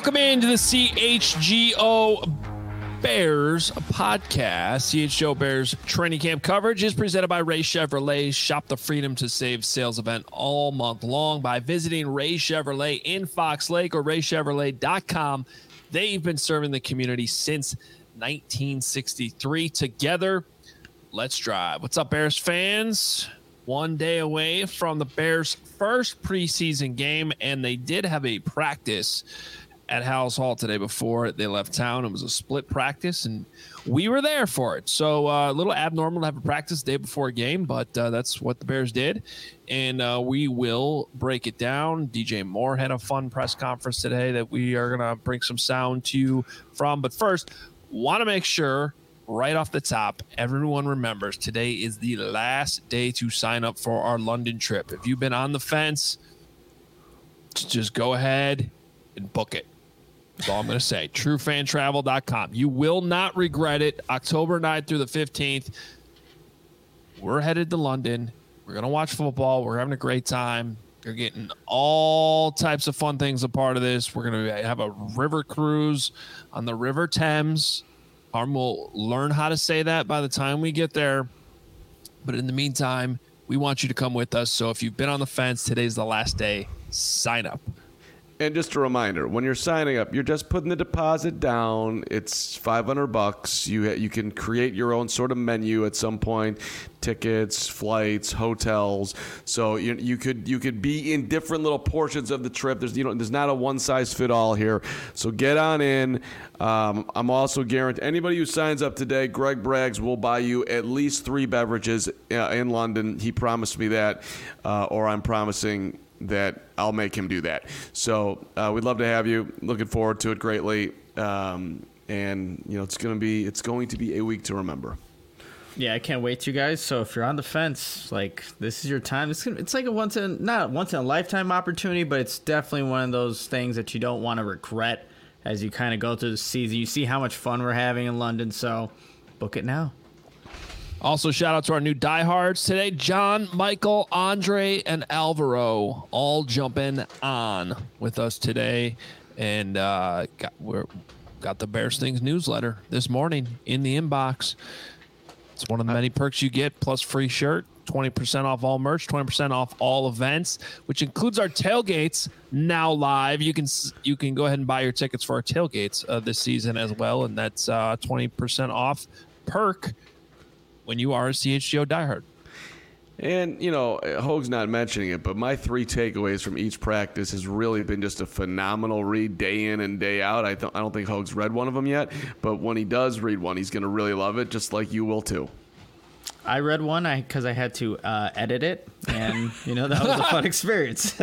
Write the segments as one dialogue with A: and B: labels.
A: Welcome into the CHGO Bears podcast. CHGO Bears training camp coverage is presented by Ray Chevrolet. Shop the Freedom to Save sales event all month long by visiting Ray Chevrolet in Fox Lake or raychevrolet.com. They've been serving the community since 1963. Together, let's drive. What's up, Bears fans? One day away from the Bears' first preseason game, and they did have a practice at Halas Hall today before they left town. It was a split practice, and we were there for it. So a little abnormal to have a practice the day before a game, but that's what the Bears did, and we will break it down. DJ Moore had a fun press conference today that we are going to bring some sound to you from. But first, want to make sure right off the top, everyone remembers today is the last day to sign up for our London trip. If you've been on the fence, just go ahead and book it. That's all I'm going to say. TrueFanTravel.com. You will not regret it. October 9th through the 15th. We're headed to London. We're going to watch football. We're having a great time. You're getting all types of fun things a part of this. We're going to have a river cruise on the River Thames. We'll learn how to say that by the time we get there. But in the meantime, we want you to come with us. So if you've been on the fence, today's the last day. Sign up.
B: And just a reminder, when you're signing up, you're just putting the deposit down. It's $500. You can create your own sort of menu at some point, tickets, flights, hotels. So you could be in different little portions of the trip. There's not a one size fit all here. So get on in. I'm also guaranteed anybody who signs up today, Greg Braggs will buy you at least 3 beverages in London. He promised me that, or I'm promising that I'll make him do that. So we'd love to have you. Looking forward to it greatly. And it's going to be a week to remember.
C: Yeah, I can't wait, you guys. So if you're on the fence, this is your time. It's like not once in a lifetime opportunity, but it's definitely one of those things that you don't want to regret as you kind of go through the season. You see how much fun we're having in London, so book it now.
A: Also, shout out to our new diehards today. John, Michael, Andre, and Alvaro all jumping on with us today. And got the Bears Things newsletter this morning in the inbox. It's one of the many perks you get, plus free shirt, 20% off all merch, 20% off all events, which includes our tailgates now live. You can go ahead and buy your tickets for our tailgates this season as well, and that's 20% off perk when you are a CHGO diehard.
B: And, Hoag's not mentioning it, but my 3 takeaways from each practice has really been just a phenomenal read day in and day out. I don't think Hoag's read one of them yet, but when he does read one, he's going to really love it, just like you will too.
C: I read one because I had to edit it, and, that was a fun experience.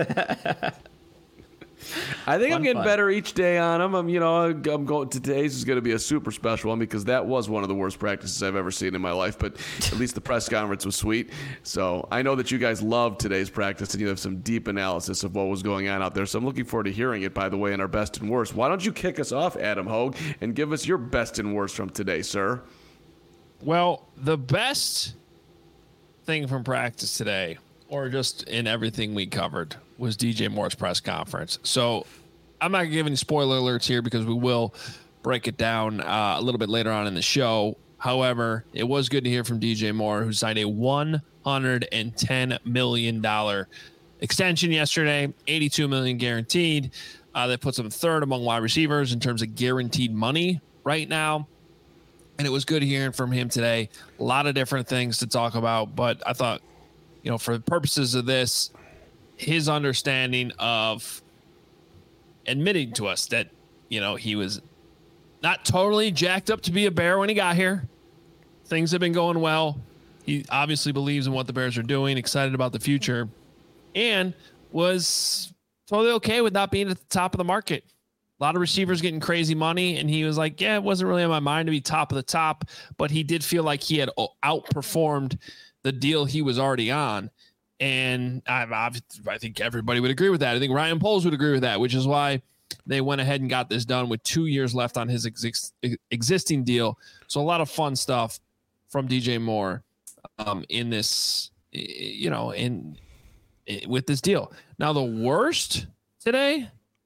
B: I think I'm getting better each day on them. I'm going. Today's is going to be a super special one because that was one of the worst practices I've ever seen in my life. But at least the press conference was sweet. So I know that you guys loved today's practice and you have some deep analysis of what was going on out there. So I'm looking forward to hearing it. By the way, in our best and worst, why don't you kick us off, Adam Hoag, and give us your best and worst from today, sir?
A: Well, the best thing from practice today, or just in everything we covered, was DJ Moore's press conference. So I'm not going to give any spoiler alerts here because we will break it down a little bit later on in the show. However, it was good to hear from DJ Moore, who signed a $110 million extension yesterday, $82 million guaranteed. That puts him third among wide receivers in terms of guaranteed money right now. And it was good hearing from him today. A lot of different things to talk about, but I thought, for the purposes of this, his understanding of admitting to us that, he was not totally jacked up to be a Bear when he got here. Things have been going well. He obviously believes in what the Bears are doing, excited about the future, and was totally okay with not being at the top of the market. A lot of receivers getting crazy money, and he was like, yeah, it wasn't really on my mind to be top of the top, but he did feel like he had outperformed the deal he was already on. And I think everybody would agree with that. I think Ryan Poles would agree with that, which is why they went ahead and got this done with 2 years left on his existing deal. So a lot of fun stuff from DJ Moore in this, with this deal. Now, the worst today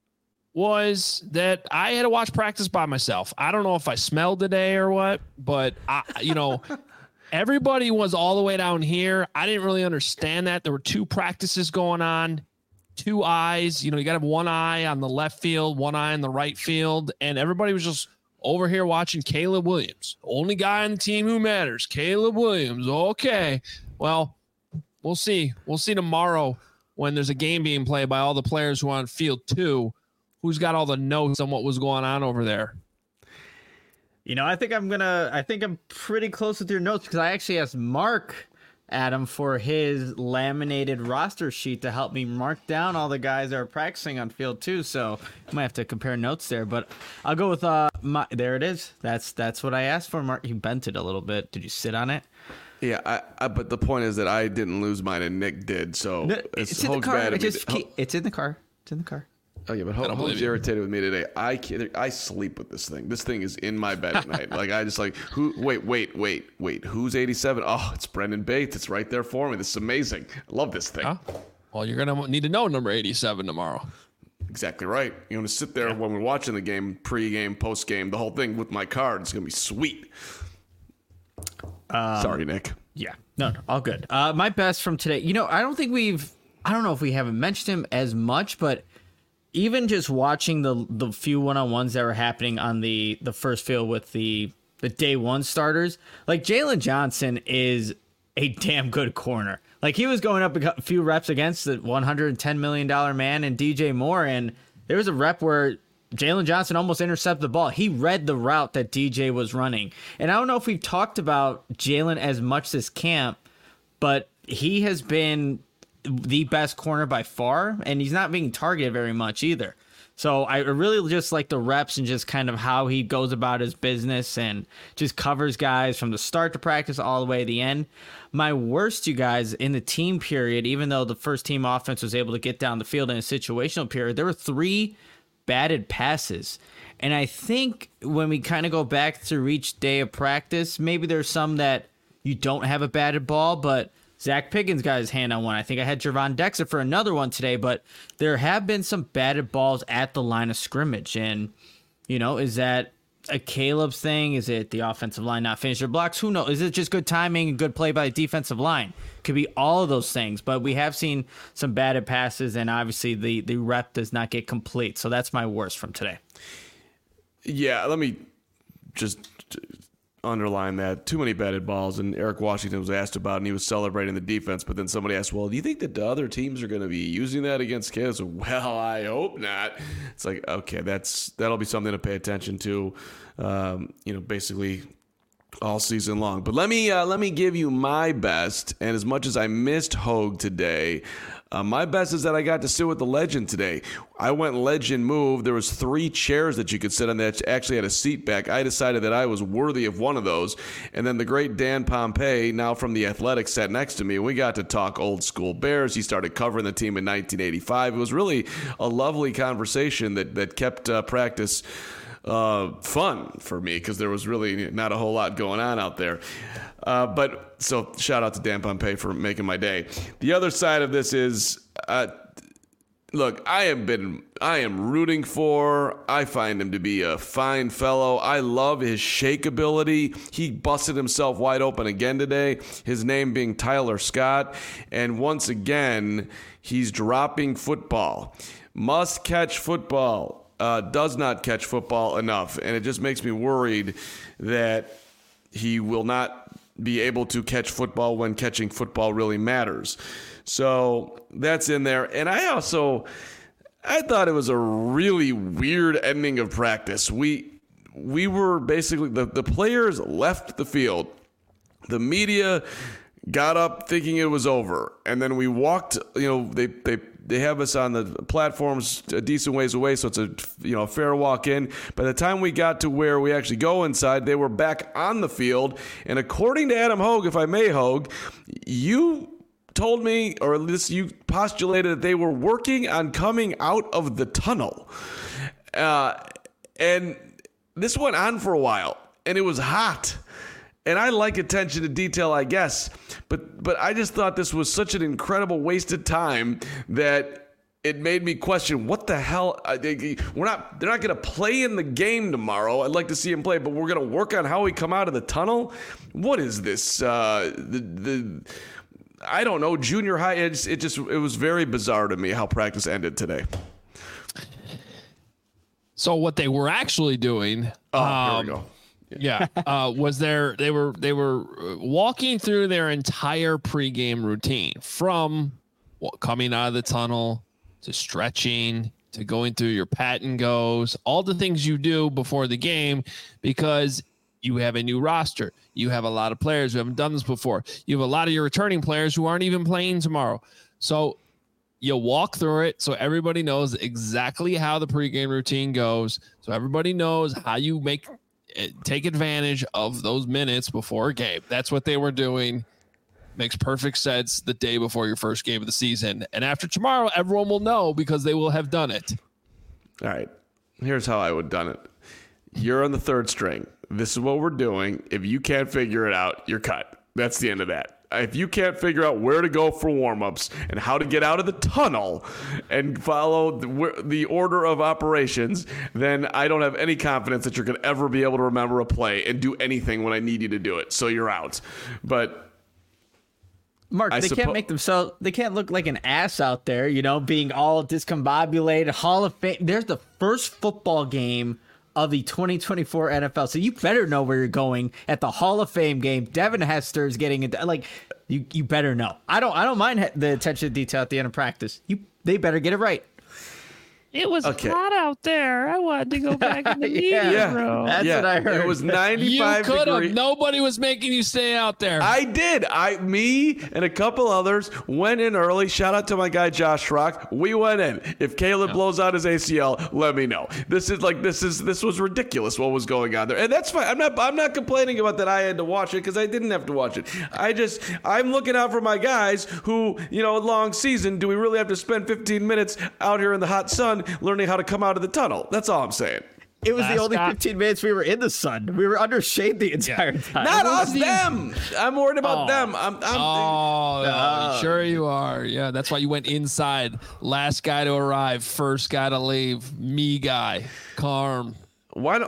A: was that I had to watch practice by myself. I don't know if I smelled today or what, but everybody was all the way down here. I didn't really understand that. There were 2 practices going on, 2 eyes. You got to have one eye on the left field, one eye on the right field. And everybody was just over here watching Caleb Williams. Only guy on the team who matters, Caleb Williams. Okay. Well, we'll see. We'll see tomorrow when there's a game being played by all the players who are on field 2. Who's got all the notes on what was going on over there?
C: I think I'm pretty close with your notes because I actually asked Mark Adam for his laminated roster sheet to help me mark down all the guys that are practicing on field 2. So I might have to compare notes there, but I'll go with there it is. That's what I asked for, Mark. You bent it a little bit. Did you sit on it?
B: Yeah, but the point is that I didn't lose mine and Nick did. So
C: no, it's in the car. It's in the car. It's in the car.
B: Oh yeah, but Hope's irritated with me today. I sleep with this thing. This thing is in my bed at night. Like I just like who? Wait. Who's 87? Oh, it's Brendan Bates. It's right there for me. This is amazing. I love this thing.
A: Huh? Well, you're gonna need to know number 87 tomorrow.
B: Exactly right. You're gonna sit there when we're watching the game, pre-game, post-game, the whole thing with my card. It's gonna be sweet. Sorry, Nick.
C: Yeah, no, all good. My best from today. I don't know if we haven't mentioned him as much, but even just watching the few one-on-ones that were happening on the first field with the day 1 starters, like Jalen Johnson is a damn good corner. Like he was going up a few reps against the $110 million man and DJ Moore, and there was a rep where Jalen Johnson almost intercepted the ball. He read the route that DJ was running. And I don't know if we've talked about Jalen as much this camp, but he has been the best corner by far, and he's not being targeted very much either. So I really just like the reps and just kind of how he goes about his business and just covers guys from the start to practice all the way to the end. My worst, you guys, in the team period, even though the first team offense was able to get down the field in a situational period, there were 3 batted passes. And I think when we kind of go back through each day of practice, maybe there's some that you don't have a batted ball, but Zach Piggins got his hand on one. I think I had Javon Dexter for another one today, but there have been some batted balls at the line of scrimmage. And, is that a Caleb thing? Is it the offensive line not finishing their blocks? Who knows? Is it just good timing and good play by the defensive line? Could be all of those things, but we have seen some batted passes, and obviously the rep does not get complete. So that's my worst from today.
B: Yeah, let me just underline that. Too many batted balls, and Eric Washington was asked about, and he was celebrating the defense, but then somebody asked, well, do you think that the other teams are going to be using that against kids? Well, I hope not. It's like, okay, that'll be something to pay attention to, basically all season long. But let me give you my best, and as much as I missed Hogue today, my best is that I got to sit with the legend today. I went legend move. There was 3 chairs that you could sit on that actually had a seat back. I decided that I was worthy of one of those. And then the great Dan Pompei, now from The Athletic, sat next to me. We got to talk old school Bears. He started covering the team in 1985. It was really a lovely conversation that kept practice fun for me because there was really not a whole lot going on out there. But so shout out to Dan Pompei for making my day. The other side of this is, look, I am rooting for. I find him to be a fine fellow. I love his shake ability. He busted himself wide open again today. His name being Tyler Scott, and once again he's dropping football. Must catch football. Does not catch football enough, and it just makes me worried that he will not be able to catch football when catching football really matters. So that's in there. And I thought it was a really weird ending of practice. We were basically, the players left the field. The media got up thinking it was over. And then we walked, they have us on the platforms a decent ways away, so it's a fair walk in. By the time we got to where we actually go inside, they were back on the field. And according to Adam Hogue, if I may, Hogue, you told me, or at least you postulated that they were working on coming out of the tunnel. And this went on for a while, and it was hot. And I like attention to detail, I guess, but I just thought this was such an incredible waste of time that it made me question what the hell. They're not going to play in the game tomorrow. I'd like to see him play, but we're going to work on how we come out of the tunnel. What is this? I don't know. Junior high. It was very bizarre to me how practice ended today.
A: So what they were actually doing?
B: Here we go.
A: Was they were walking through their entire pregame routine from coming out of the tunnel to stretching to going through your pat and goes, all the things you do before the game, because you have a new roster. You have a lot of players who haven't done this before. You have a lot of your returning players who aren't even playing tomorrow. So you walk through it so everybody knows exactly how the pregame routine goes. So everybody knows how you take advantage of those minutes before a game. That's what they were doing. Makes perfect sense the day before your first game of the season. And after tomorrow, everyone will know because they will have done it.
B: All right. Here's how I would have done it. You're on the third string. This is what we're doing. If you can't figure it out, you're cut. That's the end of that. If you can't figure out where to go for warm-ups and how to get out of the tunnel and follow the order of operations, then I don't have any confidence that you're going to ever be able to remember a play and do anything when I need you to do it. So you're out. But
C: Mark, they can't look like an ass out there, being all discombobulated. Hall of Fame. There's the first football game of the 2024 NFL. So you better know where you're going at the Hall of Fame game. Devin Hester is getting it. Like, you better know. I don't mind the attention to detail at the end of practice. They better get it right.
A: It was hot out there. I wanted to go back in the meeting room.
C: That's what I heard.
B: It was 95
A: You could have.
B: degrees.
A: Nobody was making you stay out there.
B: I did. Me and a couple others went in early. Shout out to my guy Josh Rock. We went in. If Caleb blows out his ACL, let me know. This was ridiculous what was going on there, and that's fine. I'm not complaining about that. I had to watch it because I didn't have to watch it. I'm looking out for my guys who, long season. Do we really have to spend 15 minutes out here in the hot sun learning how to come out of the tunnel? That's all I'm saying.
C: It was the only 15 minutes we were in the sun. We were under shade the entire time.
B: Not us, them. I'm worried about them.
A: Sure you are. Yeah, that's why you went inside. Last guy to arrive, first guy to leave. Me guy, Carm.
B: Why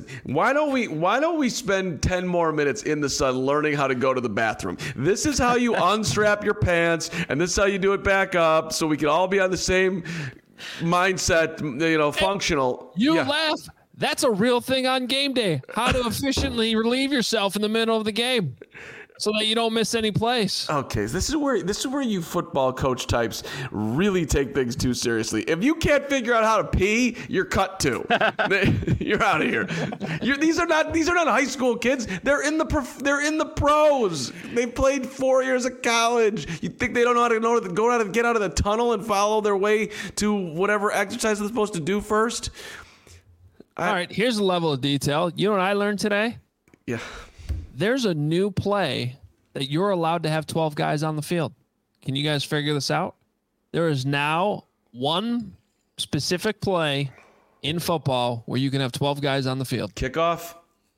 B: don't we spend 10 more minutes in the sun learning how to go to the bathroom? This is how you unstrap your pants, and this is how you do it back up, so we can all be on the same mindset, functional.
A: Laugh. That's a real thing on game day. How to efficiently relieve yourself in the middle of the game so that you don't miss any plays.
B: Okay, this is where you football coach types really take things too seriously. If you can't figure out how to pee, you're cut too. You're out of here. These are not high school kids. They're in the pros. They played 4 years of college. You think they don't know how to go out and get out of the tunnel and follow their way to whatever exercise they're supposed to do first?
A: All right, here's a level of detail. You know what I learned today?
B: Yeah.
A: There's a new play that you're allowed to have 12 guys on the field. Can you guys figure this out? There is now one specific play in football where you can have 12 guys on the field.
B: Kickoff?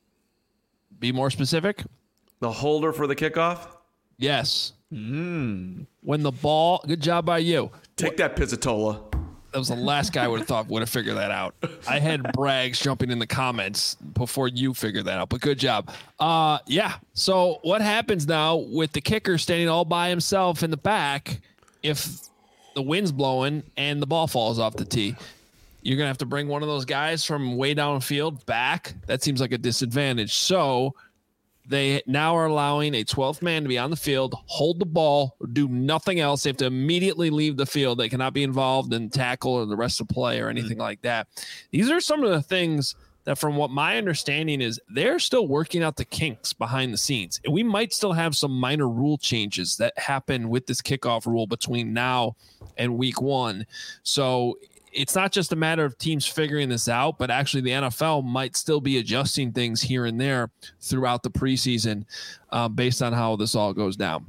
A: Be more specific.
B: The holder for the kickoff?
A: Yes. When the ball, good job by you.
B: Take that, Pizzatola.
A: That was the last guy would have figured that out. I had Braggs jumping in the comments before you figured that out, but good job. Yeah. So what happens now with the kicker standing all by himself in the back if the wind's blowing and the ball falls off the tee? You're going to have to bring one of those guys from way downfield back. That seems like a disadvantage. So they now are allowing a 12th man to be on the field, hold the ball, do nothing else. They have to immediately leave the field. They cannot be involved in tackle or the rest of play or anything like that. These are some of the things that, from what my understanding is, they're still working out the kinks behind the scenes. And we might still have some minor rule changes that happen with this kickoff rule between now and week 1. So it's not just a matter of teams figuring this out, but actually the NFL might still be adjusting things here and there throughout the preseason based on how this all goes down.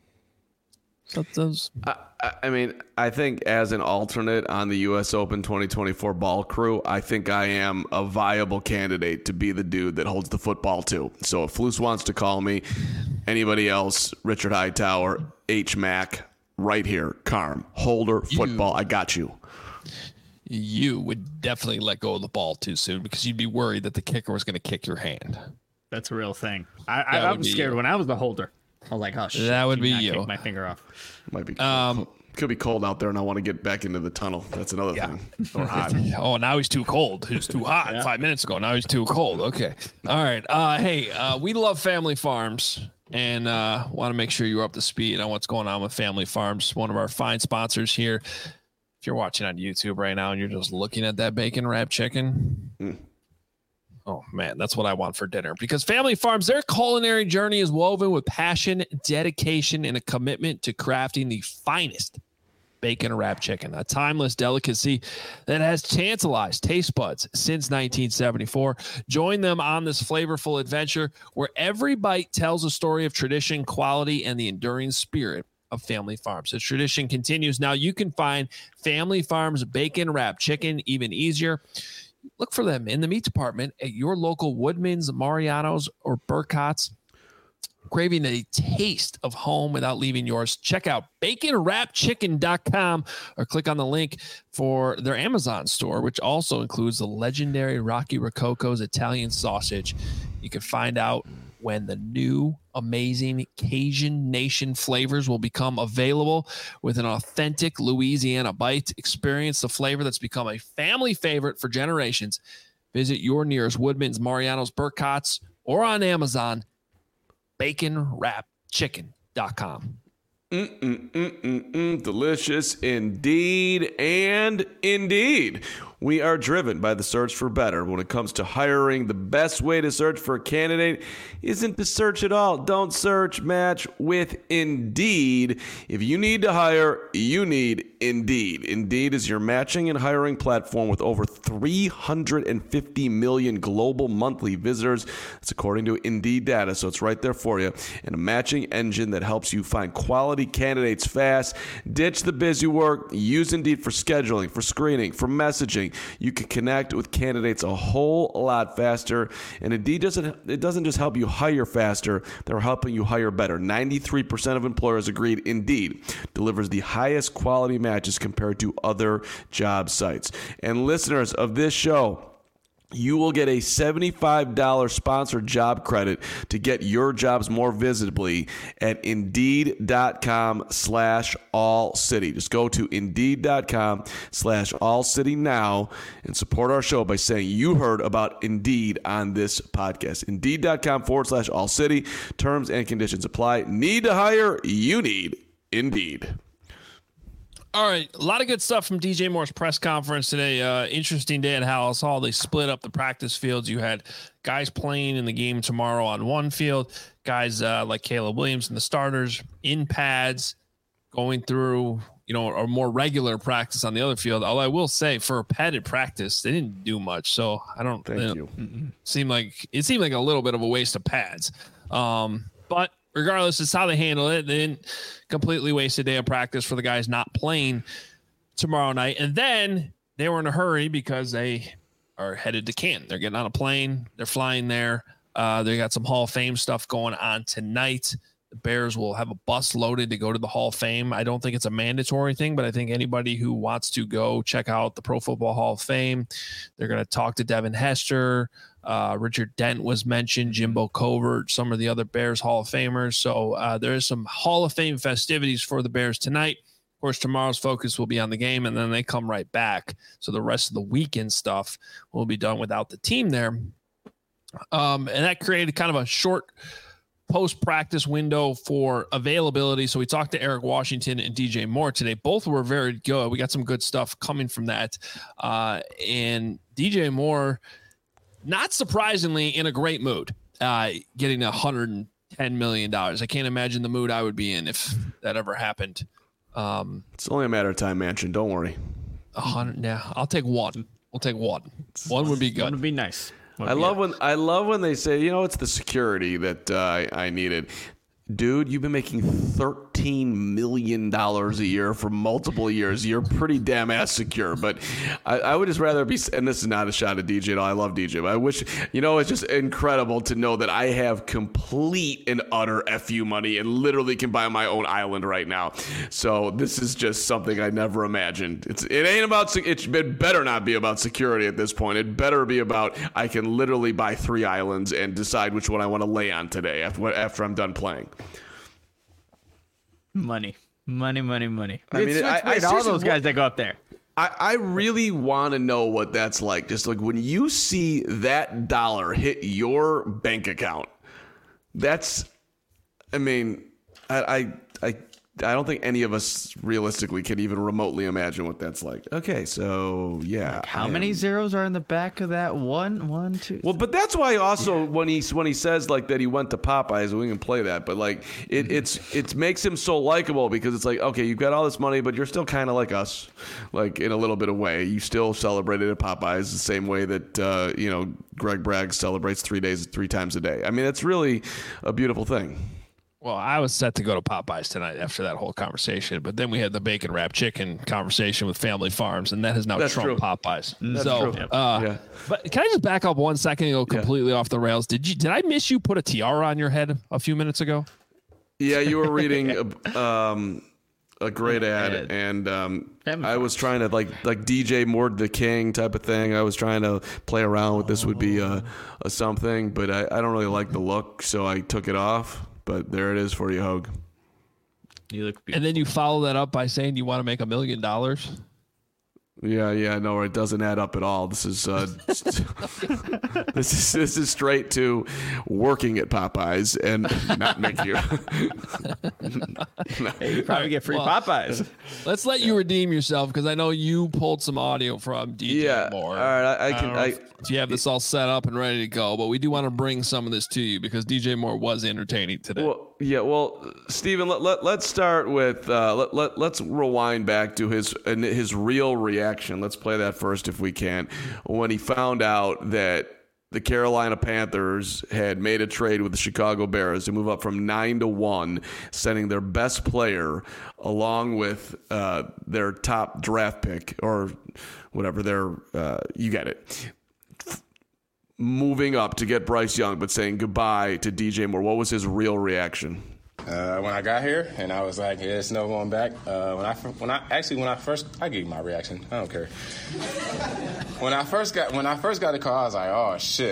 B: I think as an alternate on the U.S. Open 2024 ball crew, I think I am a viable candidate to be the dude that holds the football too. So if Flus wants to call me, anybody else, Richard Hightower, H. Mac, right here. Carm, Holder, football. I got you.
A: You would definitely let go of the ball too soon because you'd be worried that the kicker was going to kick your hand.
C: That's a real thing. I was scared when I was the holder. I was like, oh shit.
A: That would be you.
C: Kick my finger off.
B: Might be could be cold out there, and I want to get back into the tunnel. That's another thing. Or hot.
A: Oh, now he's too cold. He was too hot 5 minutes ago. Now he's too cold. Okay. All right. Hey, we love Family Farms and want to make sure you're up to speed on what's going on with Family Farms, one of our fine sponsors here. If you're watching on YouTube right now and you're just looking at that bacon wrap chicken, oh man, that's what I want for dinner. Because Family Farms, their culinary journey is woven with passion, dedication, and a commitment to crafting the finest bacon wrap chicken, a timeless delicacy that has tantalized taste buds since 1974. Join them on this flavorful adventure where every bite tells a story of tradition, quality, and the enduring spirit of Family Farms. The tradition continues. Now you can find Family Farms bacon wrap chicken even easier. Look for them in the meat department at your local Woodman's, Mariano's, or Burkott's. Craving a taste of home without leaving yours? Check out baconwrapchicken.com or click on the link for their Amazon store, which also includes the legendary Rocky Rococo's Italian sausage. You can find out when the new amazing Cajun Nation flavors will become available with an authentic Louisiana bite. Experience the flavor that's become a family favorite for generations. Visit your nearest Woodman's, Mariano's, Burkott's, or on Amazon. baconwrapchicken.com.
B: Delicious indeed. And indeed, we are driven by the search for better. When it comes to hiring, the best way to search for a candidate isn't to search at all. Don't search, match with Indeed. If you need to hire, you need Indeed. Indeed is your matching and hiring platform with over 350 million global monthly visitors. That's according to Indeed data, so it's right there for you. And a matching engine that helps you find quality candidates fast. Ditch the busy work. Use Indeed for scheduling, for screening, for messaging. You can connect with candidates a whole lot faster. And Indeed doesn't just help you hire faster, they're helping you hire better. 93% of employers agreed Indeed delivers the highest quality matches compared to other job sites. And listeners of this show, you will get a $75 sponsored job credit to get your jobs more visibly at Indeed.com/allcity. Just go to Indeed.com/allcity now and support our show by saying you heard about Indeed on this podcast. Indeed.com/allcity. Terms and conditions apply. Need to hire? You need Indeed.
A: All right, a lot of good stuff from DJ Moore's press conference today. Interesting day at Halas Hall. They split up the practice fields. You had guys playing in the game tomorrow on one field, guys like Caleb Williams and the starters in pads going through, a more regular practice on the other field. Although I will say, for a padded practice, they didn't do much. So I don't think it seemed like a little bit of a waste of pads. But regardless, it's how they handle it. They didn't completely waste a day of practice for the guys not playing tomorrow night. And then they were in a hurry because they are headed to Canton. They're getting on a plane. They're flying there. They got some Hall of Fame stuff going on tonight. The Bears will have a bus loaded to go to the Hall of Fame. I don't think it's a mandatory thing, but I think anybody who wants to go check out the Pro Football Hall of Fame, they're going to talk to Devin Hester. Richard Dent was mentioned, Jimbo Covert, some of the other Bears Hall of Famers. So there is some Hall of Fame festivities for the Bears tonight. Of course, tomorrow's focus will be on the game, and then they come right back. So the rest of the weekend stuff will be done without the team there. And that created kind of a short post-practice window for availability. So we talked to Eric Washington and DJ Moore today. Both were very good. We got some good stuff coming from that. And DJ Moore, not surprisingly, in a great mood, getting $110 million. I can't imagine the mood I would be in if that ever happened.
B: It's only a matter of time, Manchin. Don't worry.
A: 100. Yeah, I'll take one. We'll take one. One would be good.
C: One would be nice.
B: I love when they say, it's the security that I needed. dude, you've been making $13 million a year for multiple years. You're pretty damn ass secure. But I would just rather be, and this is not a shot at DJ at all. I love DJ, but I wish, it's just incredible to know that I have complete and utter FU money and literally can buy my own island right now. So this is just something I never imagined. It ain't about, it better not be about security at this point. It better be about, I can literally buy 3 islands and decide which one I want to lay on today after I'm done playing.
C: Money. I mean,
B: I
C: all those guys that go up there.
B: I really want to know what that's like. Just like when you see that dollar hit your bank account, that's, I don't think any of us realistically can even remotely imagine what that's like. Okay, so yeah.
C: Like how many zeros are in the back of that? One, two.
B: Well, but that's why also when he says like that he went to Popeyes, we can play that. But like it makes him so likable because it's like, okay, you've got all this money, but you're still kind of like us, like in a little bit of way. You still celebrated at Popeyes the same way that Greg Bragg celebrates 3 times a day. I mean, that's really a beautiful thing.
A: Well, I was set to go to Popeyes tonight after that whole conversation, but then we had the bacon wrapped chicken conversation with Family Farms, and that has now trumped Popeyes.
B: That's
A: so,
B: true.
A: But can I just back up 1 second and go completely off the rails? Did I miss you put a tiara on your head a few minutes ago?
B: Yeah, you were reading a great ad, and I was trying to like DJ Mord the King type of thing. I was trying to play around with this would be a something, but I don't really like the look, so I took it off. But there it is for you, Hogue.
C: You look beautiful.
A: And then you follow that up by saying you want to make $1 million.
B: Yeah, no, it doesn't add up at all. This is this is straight to working at Popeyes and not making you.
C: Hey, you probably get free Popeyes.
A: Let's let you redeem yourself because I know you pulled some audio from DJ Moore.
B: All right,
A: Do you have this all set up and ready to go? But we do want to bring some of this to you because DJ Moore was entertaining today.
B: Well, Steven, let's start with let's rewind back to his real reaction. Let's play that first if we can. When he found out that the Carolina Panthers had made a trade with the Chicago Bears to move up from 9-1, sending their best player along with their top draft pick or whatever you get it. Moving up to get Bryce Young, but saying goodbye to DJ Moore. What was his real reaction?
D: When I got here, and I was like, "Yeah, it's no going back." When I first, I gave my reaction. I don't care. When I first got the call, I was like, "Oh shit!"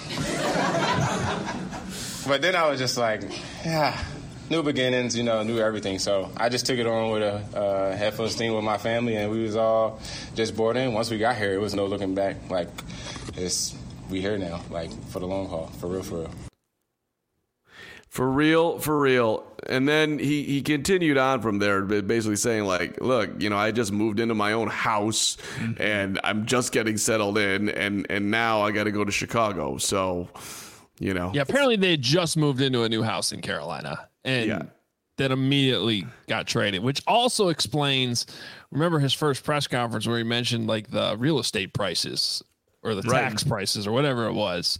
D: But then I was just like, "Yeah, new beginnings, new everything." So I just took it on with a head full of steam with my family, and we was all just bought in. Once we got here, it was no looking back. Like, we here now, like for the long haul, for real.
B: For real. And then he continued on from there, basically saying like, look, I just moved into my own house and I'm just getting settled in and now I got to go to Chicago. So,
A: Yeah, apparently they just moved into a new house in Carolina and that immediately got traded, which also explains, remember his first press conference where he mentioned like the real estate prices or the tax prices or whatever it was.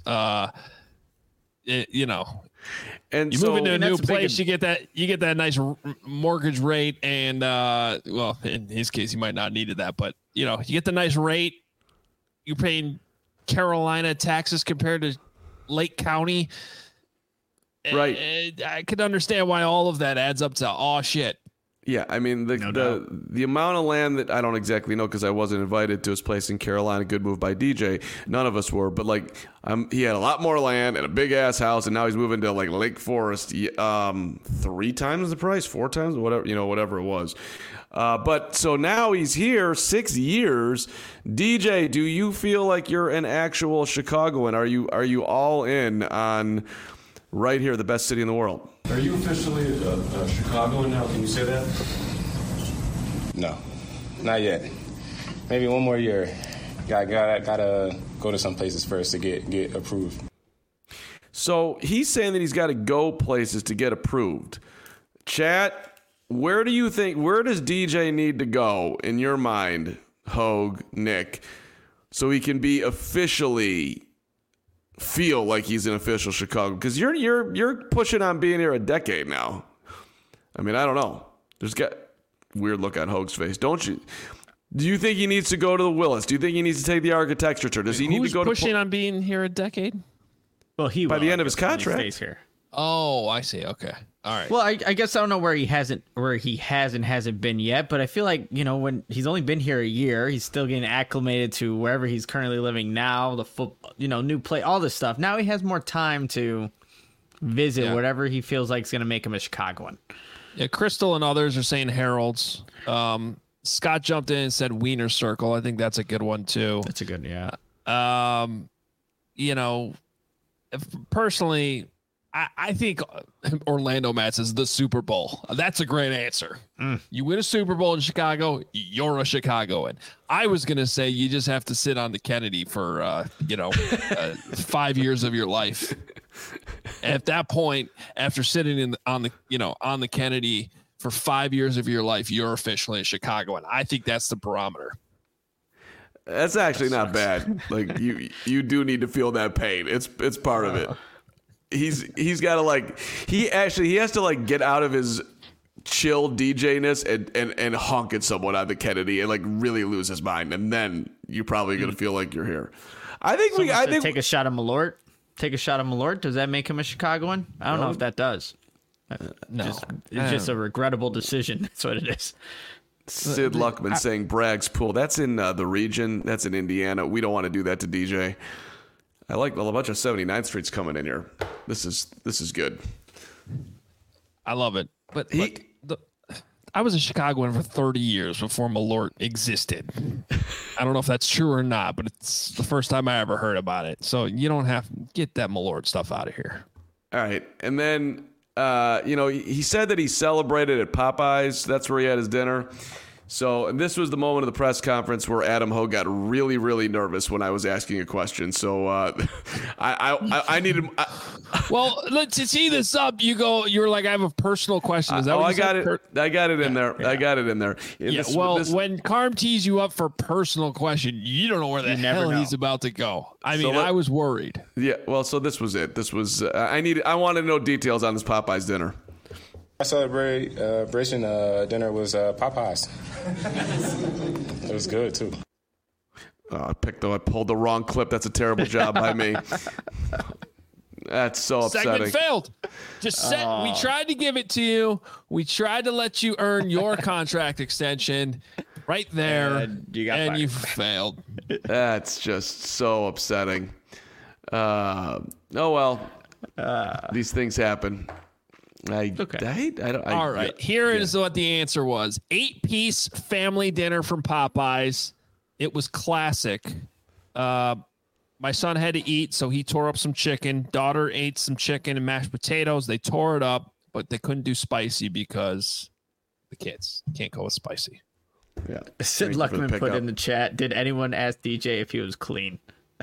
A: And you move into a new place, you get that nice mortgage rate, and well, in his case, he might not have needed that, but you get the nice rate. You're paying Carolina taxes compared to Lake County,
B: right?
A: I could understand why all of that adds up to shit.
B: Yeah, I mean the amount of land that I don't exactly know because I wasn't invited to his place in Carolina. Good move by DJ. None of us were, but he had a lot more land and a big ass house, and now he's moving to like Lake Forest. 3 times the price, 4 times, whatever it was. But so now he's here 6 years. DJ, do you feel like you're an actual Chicagoan? Are you all in on right here, the best city in the world?
E: Are you officially a Chicagoan now? Can you say that?
D: No, not yet. Maybe one more year. Gotta go to some places first to get approved.
B: So he's saying that he's got to go places to get approved. Chat, where does DJ need to go in your mind, Hogue, Nick, so he can be officially feel like he's an official Chicago, because you're pushing on being here a decade now. I mean, I don't know. There's got weird look on Hoag's face, don't you? Do you think he needs to go to the Willis? Do you think he needs to take the architecture tour? Does he need to go
A: pushing on being here a decade?
C: Well, he
B: by
C: will,
B: the end of his
C: when he
B: contract.
C: stays here.
A: Oh, I see. Okay. All right.
C: Well, I guess I don't know where he hasn't been yet, but I feel like, when he's only been here a year, he's still getting acclimated to wherever he's currently living now, the new play, all this stuff. Now he has more time to visit whatever he feels like is going to make him a Chicagoan.
A: Yeah, Crystal and others are saying Harold's. Scott jumped in and said Wiener Circle. I think that's a good one too.
C: That's a good, yeah.
A: Personally, I think Orlando Mats is the Super Bowl. That's a great answer. You win a Super Bowl in Chicago, you're a Chicagoan. I was going to say you just have to sit on the Kennedy for, 5 years of your life. At that point, after sitting on the Kennedy for 5 years of your life, you're officially a Chicagoan. I think that's the barometer.
B: That's actually not bad. Like you do need to feel that pain. It's part of it. He's got to he has to get out of his chill DJ-ness and honk at someone on the Kennedy and really lose his mind, and then you're probably gonna feel like you're here. I think
C: take a shot of Malort. Take a shot of Malort. Does that make him a Chicagoan? I don't know if that does.
A: No,
C: it's just a regrettable decision. That's what it is.
B: Sid Luckman saying Bragg's Pool. That's in the region. That's in Indiana. We don't want to do that to DJ. I like a bunch of 79th Street's coming in here. This is good.
A: I love it. But I was a Chicagoan for 30 years before Malort existed. I don't know if that's true or not, but it's the first time I ever heard about it. So you don't have to get that Malort stuff out of here.
B: All right. And then, he said that he celebrated at Popeyes. That's where he had his dinner. So, and this was the moment of the press conference where Adam Hogue got really, really nervous when I was asking a question. So, I needed.
A: Well, let's tee this up. You're like, I have a personal question. Is that what
B: I
A: you
B: got
A: said?
B: it. I got it in there. Yeah. I got it in there.
A: When Carm tees you up for a personal question, you don't know where the hell he's about to go. I mean, I was worried.
B: Yeah. Well, so this was it. This was. I wanted to know details on this Popeyes dinner.
D: My celebration dinner was Popeyes. It was good too.
B: I pulled the wrong clip. That's a terrible job by me. That's so upsetting.
A: Segment failed. We tried to give it to you. We tried to let you earn your contract extension right there, and you failed.
B: That's just so upsetting. Oh well, these things happen.
A: All right. Here is what the answer was: 8-piece family dinner from Popeyes. It was classic. My son had to eat, so he tore up some chicken. Daughter ate some chicken and mashed potatoes. They tore it up, but they couldn't do spicy because the kids can't go with spicy.
B: Yeah.
C: Sid Luckman put in the chat, did anyone ask DJ if he was clean?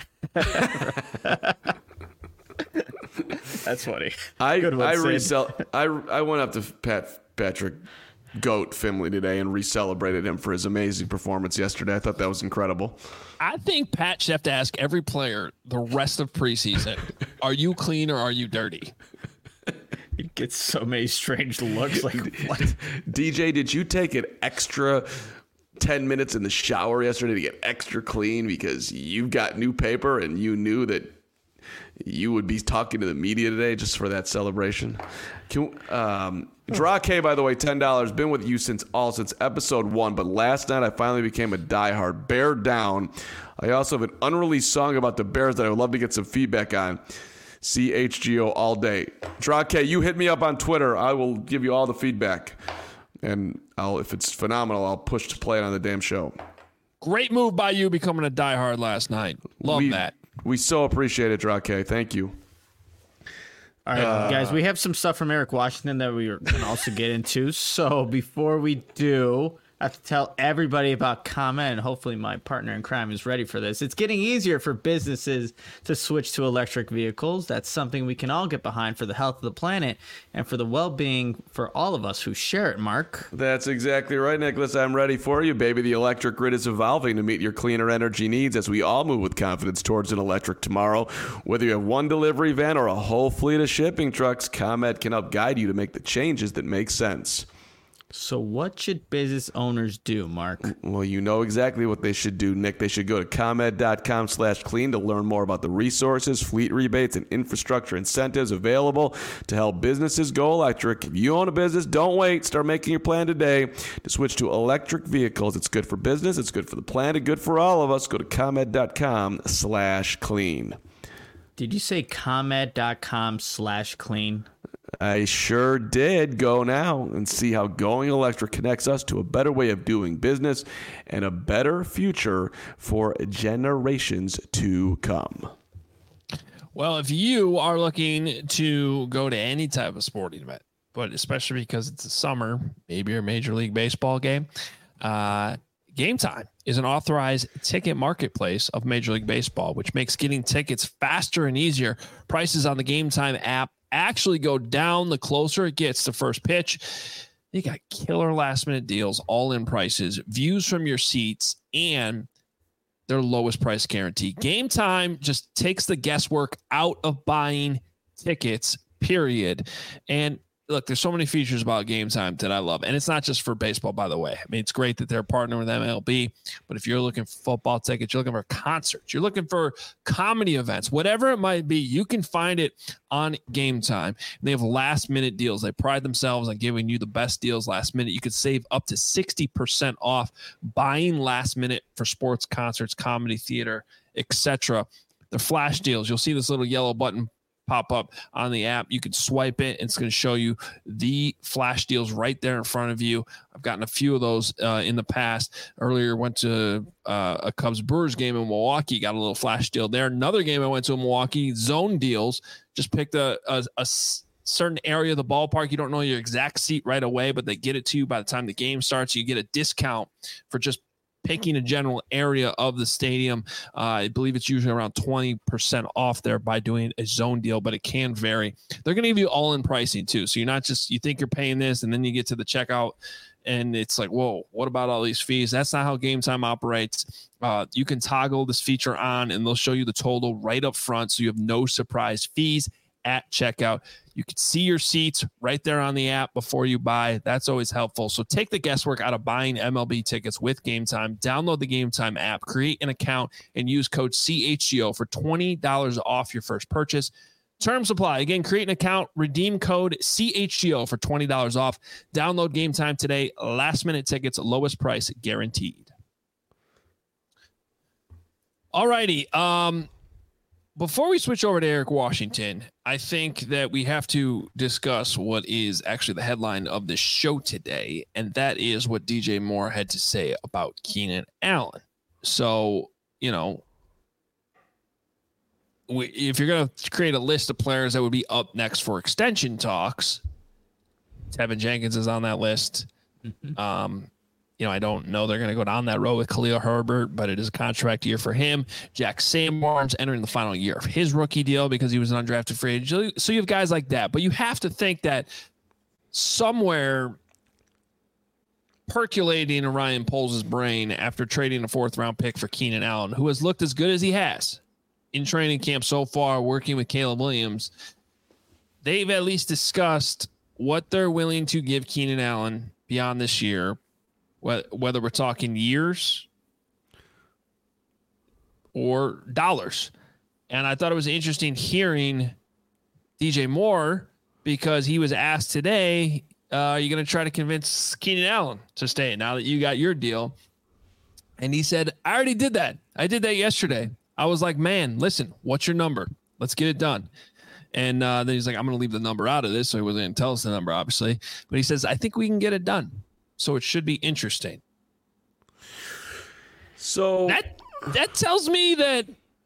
C: That's funny.
B: I went up to Patrick Goat Finley today and re-celebrated him for his amazing performance yesterday. I thought that was incredible.
A: I think Pat should have to ask every player the rest of preseason, are you clean or are you dirty?
C: He gets so many strange looks. Like, what?
B: DJ, did you take an extra 10 minutes in the shower yesterday to get extra clean because you've got new paper and you knew that you would be talking to the media today just for that celebration? Draw K, by the way, $10. Been with you since episode 1, but last night I finally became a diehard. Bear down. I also have an unreleased song about the Bears that I would love to get some feedback on. CHGO all day. Draw K, you hit me up on Twitter. I will give you all the feedback. And if it's phenomenal, I'll push to play it on the damn show.
A: Great move by you becoming a diehard last night. Love that.
B: We so appreciate it, Draw K. Thank you.
C: All right, guys, we have some stuff from Eric Washington that we are going to also get into. So before we do, I have to tell everybody about ComEd, and hopefully my partner in crime is ready for this. It's getting easier for businesses to switch to electric vehicles. That's something we can all get behind for the health of the planet and for the well-being for all of us who share it, Mark.
B: That's exactly right, Nicholas. I'm ready for you, baby. The electric grid is evolving to meet your cleaner energy needs as we all move with confidence towards an electric tomorrow. Whether you have one delivery van or a whole fleet of shipping trucks, ComEd can help guide you to make the changes that make sense.
C: So what should business owners do, Mark?
B: Well, you know exactly what they should do, Nick. They should go to ComEd.com/clean to learn more about the resources, fleet rebates, and infrastructure incentives available to help businesses go electric. If you own a business, don't wait. Start making your plan today to switch to electric vehicles. It's good for business, it's good for the planet, good for all of us. Go to ComEd.com/clean.
C: Did you say ComEd.com/clean?
B: I sure did. Go now and see how going electric connects us to a better way of doing business and a better future for generations to come.
A: Well, if you are looking to go to any type of sporting event, but especially because it's the summer, maybe your Major League Baseball game, Game Time is an authorized ticket marketplace of Major League Baseball, which makes getting tickets faster and easier. Prices on the Game Time app actually go down the closer it gets to first pitch. You got killer last minute deals, all in prices, views from your seats, and their lowest price guarantee. Game Time just takes the guesswork out of buying tickets, period. And look, there's so many features about Game Time that I love. And it's not just for baseball, by the way. I mean, it's great that they're partnering with MLB, but if you're looking for football tickets, you're looking for concerts, you're looking for comedy events, whatever it might be, you can find it on Game Time. And they have last minute deals. They pride themselves on giving you the best deals last minute. You could save up to 60% off buying last minute for sports, concerts, comedy, theater, etc. The flash deals. You'll see this little yellow button pop up on the app. You can swipe it and it's going to show you the flash deals right there in front of you. I've gotten a few of those in the past. Earlier went to a Cubs Brewers game in Milwaukee, got a little flash deal there. Another game I went to in Milwaukee, zone deals. Just picked a certain area of the ballpark. You don't know your exact seat right away, but they get it to you by the time the game starts. You get a discount for just picking a general area of the stadium. I believe it's usually around 20% off there by doing a zone deal, but it can vary. They're going to give you all in pricing too. So you're not just, you think you're paying this and then you get to the checkout and it's like, whoa, what about all these fees? That's not how Game Time operates. You can toggle this feature on and they'll show you the total right up front. So you have no surprise fees at checkout. You can see your seats right there on the app before you buy. That's always helpful. So take the guesswork out of buying MLB tickets with Game Time. Download the Game Time app, create an account, and use code CHGO for $20 off your first purchase. Terms apply. Again, create an account, redeem code CHGO for $20 off. Download Game Time today. Last minute tickets, lowest price guaranteed. All righty. Before we switch over to Eric Washington, I think that we have to discuss what is actually the headline of the show today, and that is what DJ Moore had to say about Keenan Allen. So, you know, if you're going to create a list of players that would be up next for extension talks, Tevin Jenkins is on that list. You know, I don't know they're going to go down that road with Khalil Herbert, but it is a contract year for him. Jack Sanborn's entering the final year of his rookie deal because he was an undrafted free agent. So you have guys like that, but you have to think that somewhere percolating in Ryan Poles' brain after trading a 4th-round pick for Keenan Allen, who has looked as good as he has in training camp so far, working with Caleb Williams, they've at least discussed what they're willing to give Keenan Allen beyond this year, whether we're talking years or dollars. And I thought it was interesting hearing DJ Moore because he was asked today, are you going to try to convince Keenan Allen to stay now that you got your deal? And he said, I already did that. I did that yesterday. I was like, man, listen, what's your number? Let's get it done. And then he's like, I'm going to leave the number out of this. So he wasn't going to tell us the number, obviously. But he says, I think we can get it done. So it should be interesting.
B: So
A: that tells me that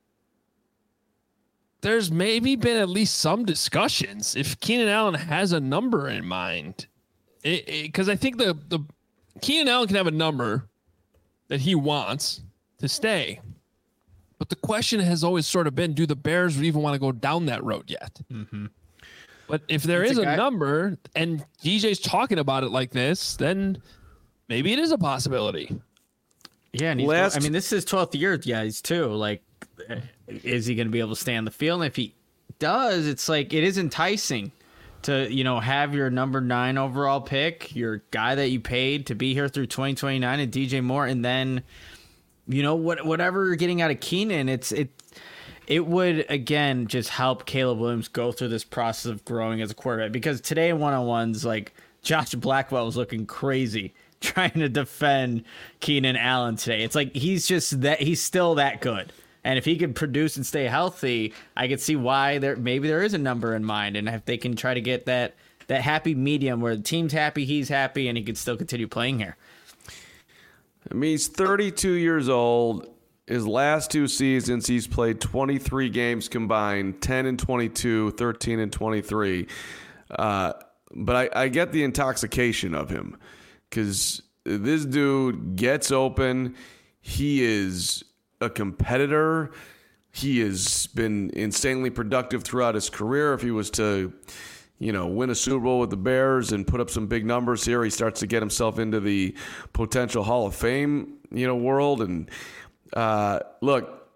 A: there's maybe been at least some discussions if Keenan Allen has a number in mind. Because I think the Keenan Allen can have a number that he wants to stay. But the question has always sort of been, do the Bears even want to go down that road yet? Mm-hmm. But if there is a number and DJ's talking about it like this, then maybe it is a possibility.
C: Yeah, and this is his 12th year, guys, too. Like, is he going to be able to stay on the field? And if he does, it's like it is enticing to, have your number 9 overall pick, your guy that you paid to be here through 2029 and DJ Moore, and then, whatever you're getting out of Keenan, it would, again, just help Caleb Williams go through this process of growing as a quarterback. Because today in one-on-ones, like, Josh Blackwell was looking crazy trying to defend Keenan Allen today. It's like he's still that good. And if he could produce and stay healthy, I could see why maybe there is a number in mind. And if they can try to get that happy medium where the team's happy, he's happy, and he could still continue playing here.
B: I mean, he's 32 years old. His last 2 seasons, he's played 23 games combined, 10 and 22, 13 and 23. But I get the intoxication of him because this dude gets open. He is a competitor. He has been insanely productive throughout his career. If he was to, win a Super Bowl with the Bears and put up some big numbers here, he starts to get himself into the potential Hall of Fame, world. And look,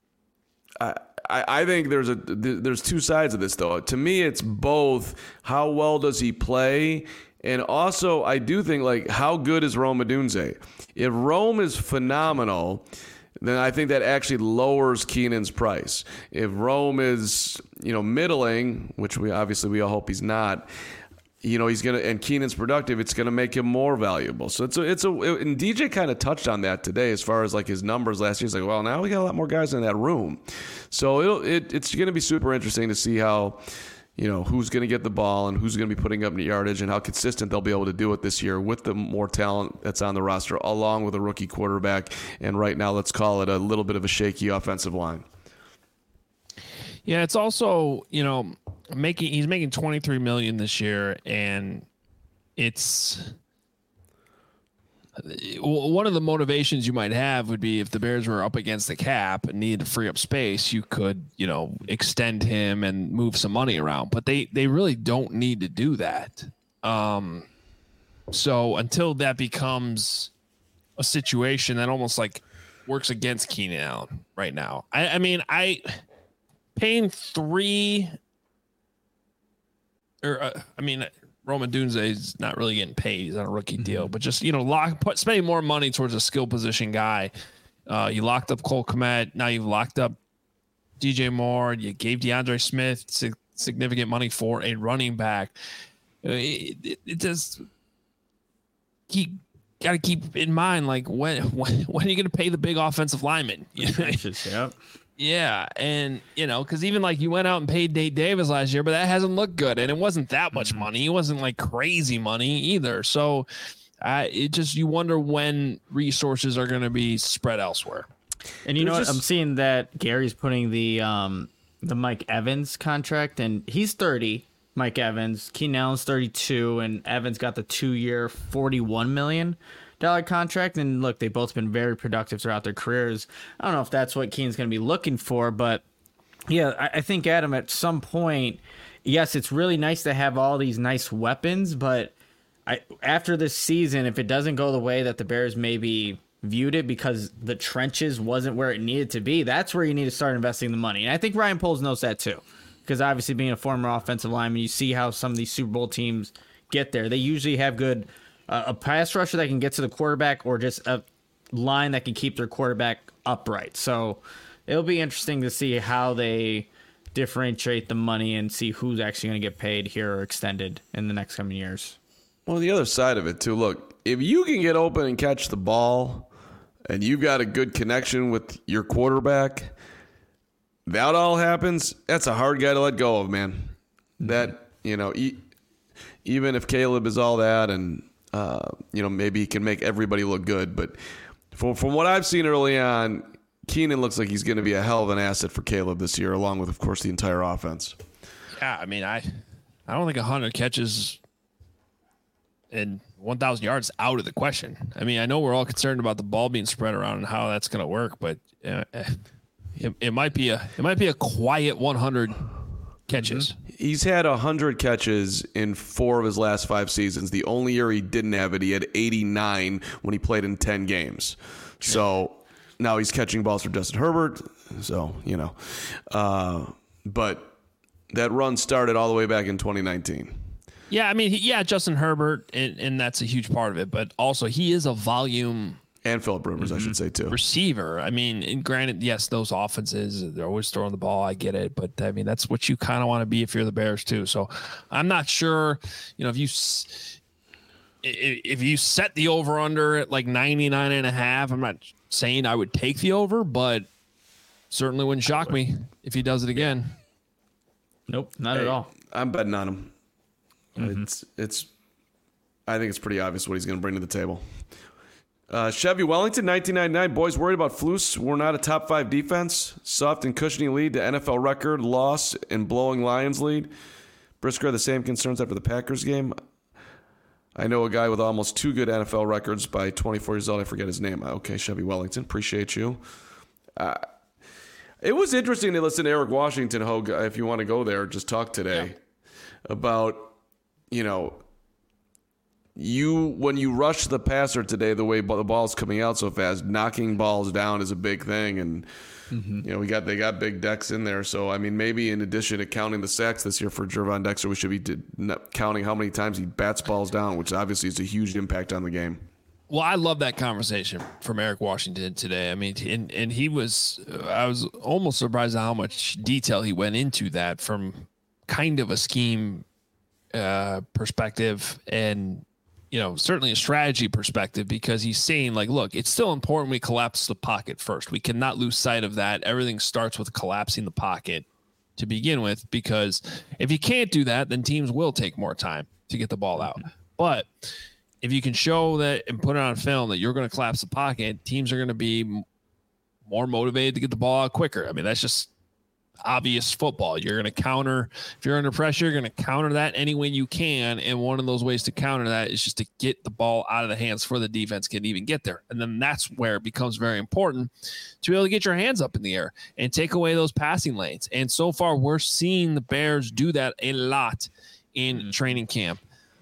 B: I think there's 2 sides of this, though. To me, it's both how well does he play, and also I do think, like, how good is Rome Odunze? If Rome is phenomenal, then I think that actually lowers Keenan's price. If Rome is, middling, which we all hope he's not, he's gonna, and Keenan's productive, it's gonna make him more valuable. So and DJ kind of touched on that today as far as like his numbers last year. He's like, well, now we got a lot more guys in that room, so it's gonna be super interesting to see how, who's gonna get the ball and who's gonna be putting up yardage and how consistent they'll be able to do it this year with the more talent that's on the roster, along with a rookie quarterback. And right now, let's call it a little bit of a shaky offensive line.
A: Yeah, it's also, he's making $23 million this year, and it's one of the motivations you might have would be if the Bears were up against the cap and needed to free up space, you could, extend him and move some money around, but they really don't need to do that. So until that becomes a situation that almost like works against Keenan Allen right now, paying 3 Rome Odunze is not really getting paid. He's on a rookie deal, but just, spending more money towards a skill position guy. You locked up Cole Kmet. Now you've locked up DJ Moore. You gave DeAndre Smith significant money for a running back. It just, you got to keep in mind, like, when are you going to pay the big offensive lineman?
C: Yep.
A: Yeah, and because even like you went out and paid Nate Davis last year, but that hasn't looked good, and it wasn't that much money. It wasn't like crazy money either. So, you wonder when resources are going to be spread elsewhere.
C: And you know what? I'm seeing that Gary's putting the Mike Evans contract, and he's 30. Mike Evans, Keenan Allen's 32, and Evans got the 2-year, $41 million contract. And look, they've both been very productive throughout their careers. I don't know if that's what Keenan's going to be looking for, but yeah, I think, Adam, at some point, yes, it's really nice to have all these nice weapons, but after this season, if it doesn't go the way that the Bears maybe viewed it because the trenches wasn't where it needed to be, that's where you need to start investing the money. And I think Ryan Poles knows that too, because obviously being a former offensive lineman, you see how some of these Super Bowl teams get there. They usually have good a pass rusher that can get to the quarterback, or just a line that can keep their quarterback upright. So it'll be interesting to see how they differentiate the money and see who's actually going to get paid here or extended in the next coming years.
B: Well, the other side of it too, look, if you can get open and catch the ball and you've got a good connection with your quarterback, that all happens, that's a hard guy to let go of, man. That, even if Caleb is all that and, maybe he can make everybody look good. But from what I've seen early on, Keenan looks like he's going to be a hell of an asset for Caleb this year, along with, of course, the entire offense.
A: Yeah, I don't think 100 catches and 1,000 yards out of the question. I mean, I know we're all concerned about the ball being spread around and how that's going to work, but it might be a quiet 100 catches.
B: He's had 100 catches in 4 of his last 5 seasons. The only year he didn't have it, he had 89 when he played in 10 games. So now he's catching balls for Justin Herbert. So, but that run started all the way back in 2019.
A: Yeah, I mean, Justin Herbert, and that's a huge part of it. But also, he is a volume
B: and Phillip Rivers, I should say, too.
A: Receiver. I mean, and granted, yes, those offenses, they're always throwing the ball. I get it. But, I mean, that's what you kind of want to be if you're the Bears, too. So I'm not sure, if you set the over-under at like 99.5, I'm not saying I would take the over, but certainly wouldn't shock me if he does it again.
C: Nope, not at all.
B: I'm betting on him. It's. I think it's pretty obvious what he's going to bring to the table. Chevy Wellington, 1999. Boys worried about Flus. We're not a top 5 defense. Soft and cushiony lead to NFL record. Loss and blowing Lions lead. Brisker had the same concerns after the Packers game. I know a guy with almost 2 good NFL records by 24 years old. I forget his name. Okay, Chevy Wellington. Appreciate you. It was interesting to listen to Eric Washington, Hogue, if you want to go there, just talk today about, when you rush the passer today, the way the ball's coming out so fast, knocking balls down is a big thing. And, they got big decks in there. So, I mean, maybe in addition to counting the sacks this year for Gervon Dexter, we should be counting how many times he bats balls down, which obviously is a huge impact on the game.
A: Well, I love that conversation from Eric Washington today. I mean, and I was almost surprised at how much detail he went into that from kind of a scheme perspective and, certainly a strategy perspective, because he's saying, like, look, it's still important we collapse the pocket first. We cannot lose sight of that. Everything starts with collapsing the pocket to begin with, because if you can't do that, then teams will take more time to get the ball out. But if you can show that and put it on film that you're going to collapse the pocket, teams are going to be more motivated to get the ball out quicker. I mean, that's just obvious football. You're going to counter. If you're under pressure, you're going to counter that any way you can. And one of those ways to counter that is just to get the ball out of the hands before the defense can even get there. And then that's where it becomes very important to be able to get your hands up in the air and take away those passing lanes. And so far, we're seeing the Bears do that a lot in training camp.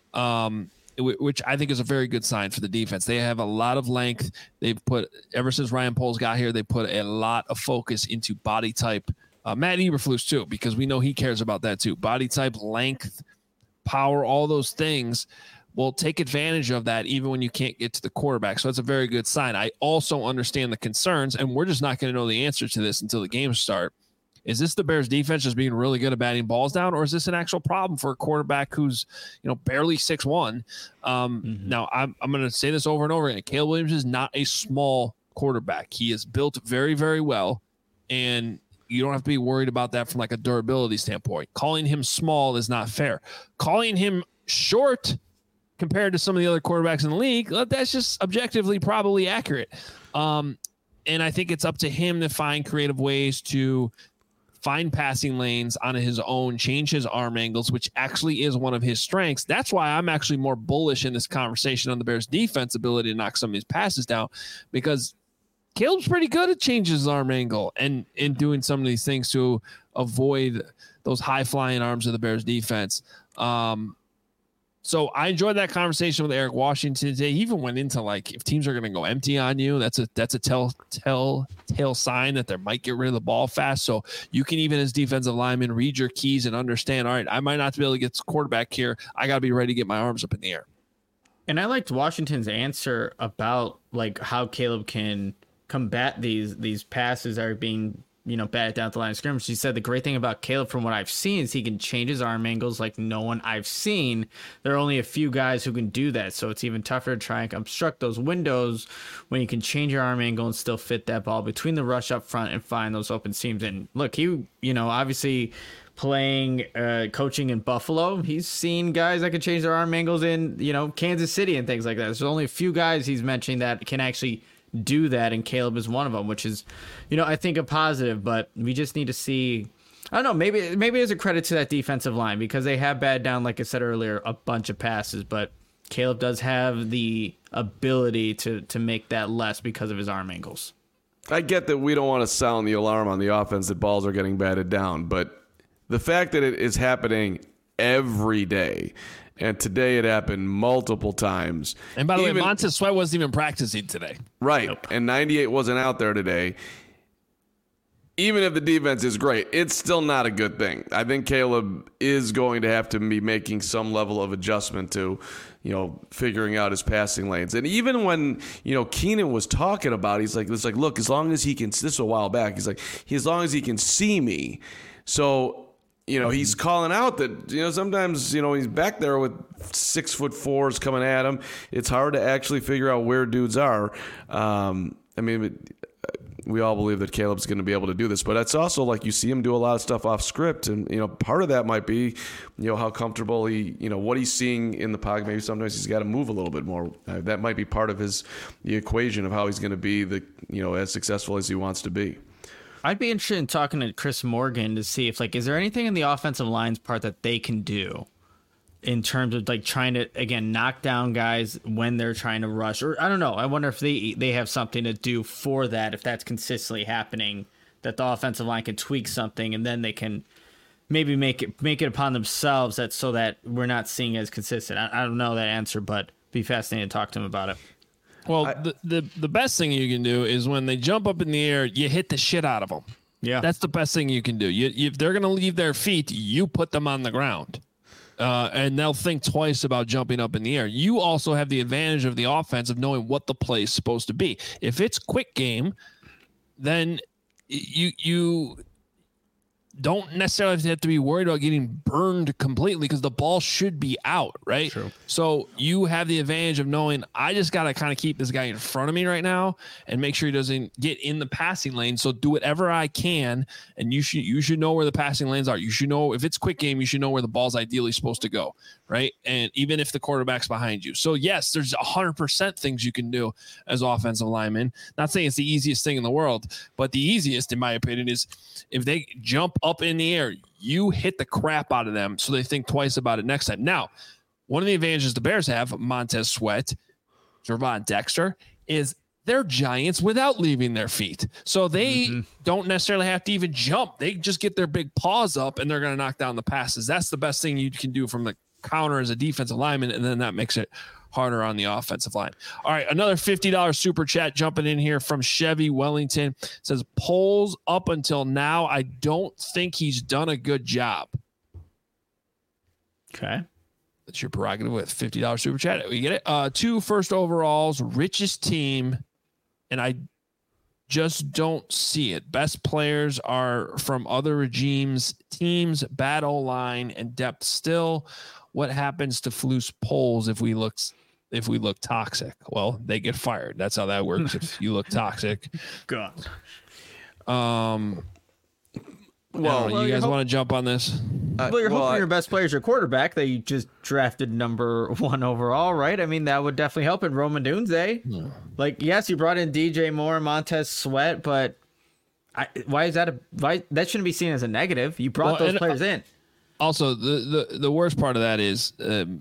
A: Which I think is a very good sign for the defense. They have a lot of length. They've put, ever since Ryan Poles got here, they put a lot of focus into body type. Matt Eberflus too, because we know he cares about that too. Body type, length, power, all those things will take advantage of that even when you can't get to the quarterback. So that's a very good sign. I also understand the concerns, and we're just not going to know the answer to this until the games start. Is this the Bears defense just being really good at batting balls down, or is this an actual problem for a quarterback who's, barely 6'1"? Now, I'm going to say this over and over again. Caleb Williams is not a small quarterback. He is built very, very well, and you don't have to be worried about that from like a durability standpoint. Calling him small is not fair. Calling him short compared to some of the other quarterbacks in the league, that's just objectively probably accurate. And I think it's up to him to find creative ways to find passing lanes on his own, change his arm angles, which actually is one of his strengths. That's why I'm actually more bullish in this conversation on the Bears' defense ability to knock some of these passes down, because Caleb's pretty good at changing his arm angle and in doing some of these things to avoid those high-flying arms of the Bears' defense. So I enjoyed that conversation with Eric Washington today. He even went into, like, if teams are going to go empty on you, that's a telltale sign that they might get rid of the ball fast. So you can, even as defensive lineman, read your keys and understand, all right, I might not be able to get the quarterback here. I got to be ready to get my arms up in the air.
C: And I liked Washington's answer about, like, how Caleb can combat these passes that are being, batted down at the line of scrimmage. He said the great thing about Caleb, from what I've seen, is he can change his arm angles like no one I've seen. There are only a few guys who can do that, so it's even tougher to try and obstruct those windows when you can change your arm angle and still fit that ball between the rush up front and find those open seams. And look, he, obviously playing, coaching in Buffalo, he's seen guys that can change their arm angles in, Kansas City and things like that. There's only a few guys he's mentioning that can actually do that, and Caleb is one of them, which is, I think a positive. But we just need to see, I don't know, maybe there's a credit to that defensive line, because they have batted down, like I said earlier, a bunch of passes. But Caleb does have the ability to make that less because of his arm angles.
B: I get that we don't want to sound the alarm on the offense that balls are getting batted down, but the fact that it is happening every day, and today it happened multiple times.
A: And by the way, Montez Sweat wasn't even practicing today.
B: Right,
C: Nope.
B: and 98 wasn't out there today. Even if the defense is great, it's still not a good thing. I think Caleb is going to have to be making some level of adjustment to, figuring out his passing lanes. And even when, Keenan was talking about it, it's like, look, as long as he can, this was a while back, he's like, as long as he can see me. So, he's calling out that, sometimes, he's back there with 6'4" coming at him. It's hard to actually figure out where dudes are. We all believe that Caleb's going to be able to do this, but it's also like you see him do a lot of stuff off script, and part of that might be how comfortable he, what he's seeing in the pocket. Maybe sometimes he's got to move a little bit more. That might be part of the equation of how he's going to be as successful as he wants to be.
C: I'd be interested in talking to Chris Morgan to see if is there anything in the offensive line's part that they can do in terms of trying to, again, knock down guys when they're trying to rush, or I don't know. I wonder if they have something to do for that, if that's consistently happening, that the offensive line can tweak something and then they can maybe make it upon themselves so that we're not seeing as consistent. I don't know that answer, but it'd be fascinating to talk to him about it.
A: Well, the best thing you can do is when they jump up in the air, you hit the shit out of them.
C: Yeah.
A: That's the best thing you can do. If they're going to leave their feet, you put them on the ground. And they'll think twice about jumping up in the air. You also have the advantage of the offense of knowing what the play is supposed to be. If it's quick game, then you don't necessarily have to be worried about getting burned completely because the ball should be out, right?
C: True.
A: So you have the advantage of knowing I just got to kind of keep this guy in front of me right now and make sure he doesn't get in the passing lane. So do whatever I can, and you should know where the passing lanes are. You should know if it's quick game, you should know where the ball's ideally supposed to go, right? And even if the quarterback's behind you. So yes, there's 100% things you can do as offensive linemen. Not saying it's the easiest thing in the world, but the easiest, in my opinion, is if they jump up in the air, you hit the crap out of them so they think twice about it next time. Now, one of the advantages the Bears have, Montez Sweat, Gervon Dexter, is they're giants without leaving their feet. So they don't necessarily have to even jump. They just get their big paws up and they're going to knock down the passes. That's the best thing you can do from the counter as a defensive lineman, and then that makes it harder on the offensive line. All right, another $50 super chat jumping in here from Chevy Wellington. It says, Poles up until now, I don't think he's done a good job.
C: Okay.
A: That's your prerogative with $50 super chat. We get it. 2 first overalls, richest team, and I just don't see it. Best players are from other regimes, teams, bad O-line, and depth still. What happens to Flus Poles if we look toxic? Well, they get fired. That's how that works. If you look toxic.
C: God.
A: Well, you guys want to jump on this?
C: Well, you're hoping your best player is your quarterback that you just drafted number 1 overall, right? I mean, that would definitely help in Rome Odunze. Yes, you brought in DJ Moore, Montez Sweat, but why is that that shouldn't be seen as a negative? You brought those players in. Also,
A: the worst part of that is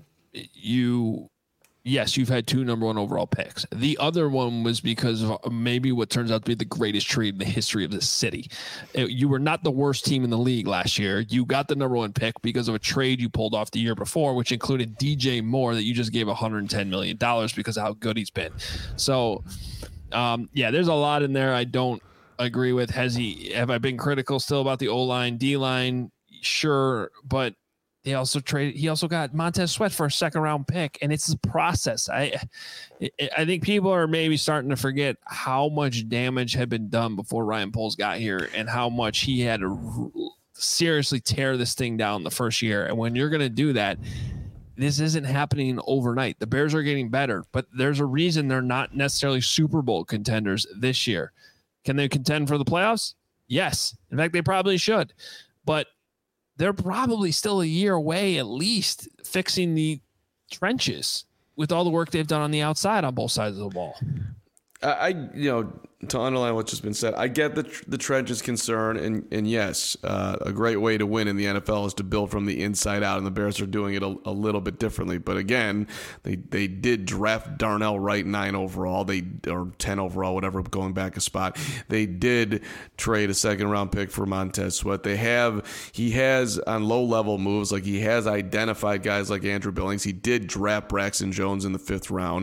A: you've had 2 number 1 overall picks. The other one was because of maybe what turns out to be the greatest trade in the history of the city. You were not the worst team in the league last year. You got the number 1 pick because of a trade you pulled off the year before, which included DJ Moore that you just gave $110 million because of how good he's been. So, there's a lot in there I don't agree with. Have I been critical still about the O-line, D-line? Sure, but he also got Montez Sweat for a 2nd round pick, and it's a process. I think people are maybe starting to forget how much damage had been done before Ryan Poles got here and how much he had to seriously tear this thing down the first year. And when you're going to do that, this isn't happening overnight. The Bears are getting better, but there's a reason they're not necessarily Super Bowl contenders this year. Can they contend for the playoffs? Yes. In fact, they probably should. But they're probably still a year away at least fixing the trenches with all the work they've done on the outside on both sides of the ball.
B: to underline what's just been said, I get the trenches concern, and yes, a great way to win in the NFL is to build from the inside out, and the Bears are doing it a little bit differently. But again, they did draft Darnell Wright 9 overall, or 10 overall, whatever, going back a spot. They did trade a second-round pick for Montez Sweat. He has on low-level moves, like he has identified guys like Andrew Billings. He did draft Braxton Jones in the 5th round.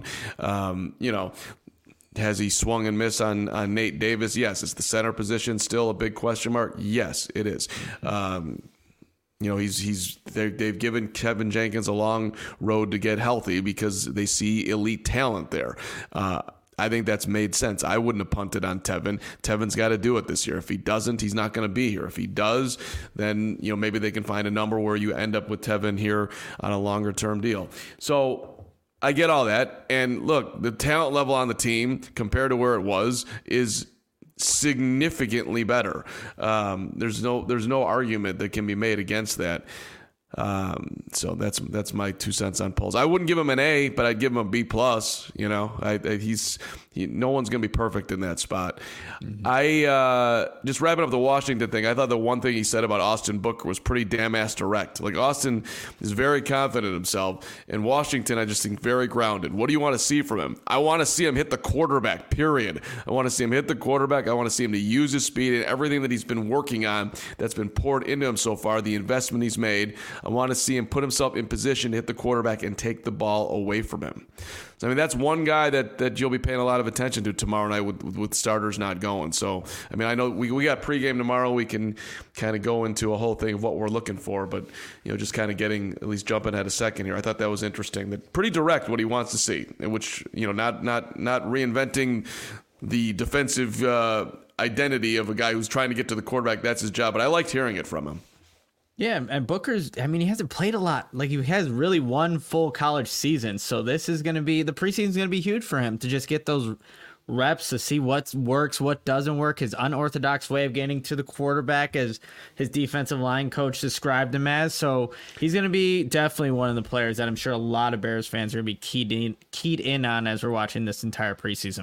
B: Has he swung and missed on Nate Davis? Yes. Is the center position still a big question mark? Yes, it is. They've given Kevin Jenkins a long road to get healthy because they see elite talent there. I think that's made sense. I wouldn't have punted on Tevin. Tevin's got to do it this year. If he doesn't, he's not going to be here. If he does, then maybe they can find a number where you end up with Tevin here on a longer term deal. So I get all that. And look, the talent level on the team compared to where it was is significantly better. There's no argument that can be made against that. So that's my 2 cents on Poles. I wouldn't give him an A, but I'd give him a B+. No one's going to be perfect in that spot. Mm-hmm. I just wrapping up the Washington thing. I thought the one thing he said about Austin Booker was pretty damn ass direct. Like, Austin is very confident in himself, and Washington, I just think, very grounded. What do you want to see from him? I want to see him hit the quarterback, period. I want to see him hit the quarterback. I want to see him to use his speed and everything that he's been working on that's been poured into him so far, the investment he's made. I want to see him put himself in position to hit the quarterback and take the ball away from him. So, that's one guy that you'll be paying a lot of attention to tomorrow night with starters not going. So, I know we got pregame tomorrow. We can kind of go into a whole thing of what we're looking for, but, just kind of at least jumping ahead a second here. I thought that was interesting. That pretty direct what he wants to see, which, not reinventing the defensive identity of a guy who's trying to get to the quarterback. That's his job, but I liked hearing it from him.
C: Yeah, and Booker's, he hasn't played a lot. Like, he has really one full college season. So this is going to be, the preseason is going to be huge for him to just get those reps to see what works, what doesn't work, his unorthodox way of getting to the quarterback, as his defensive line coach described him as. So he's going to be definitely one of the players that I'm sure a lot of Bears fans are going to be keyed in on as we're watching this entire preseason.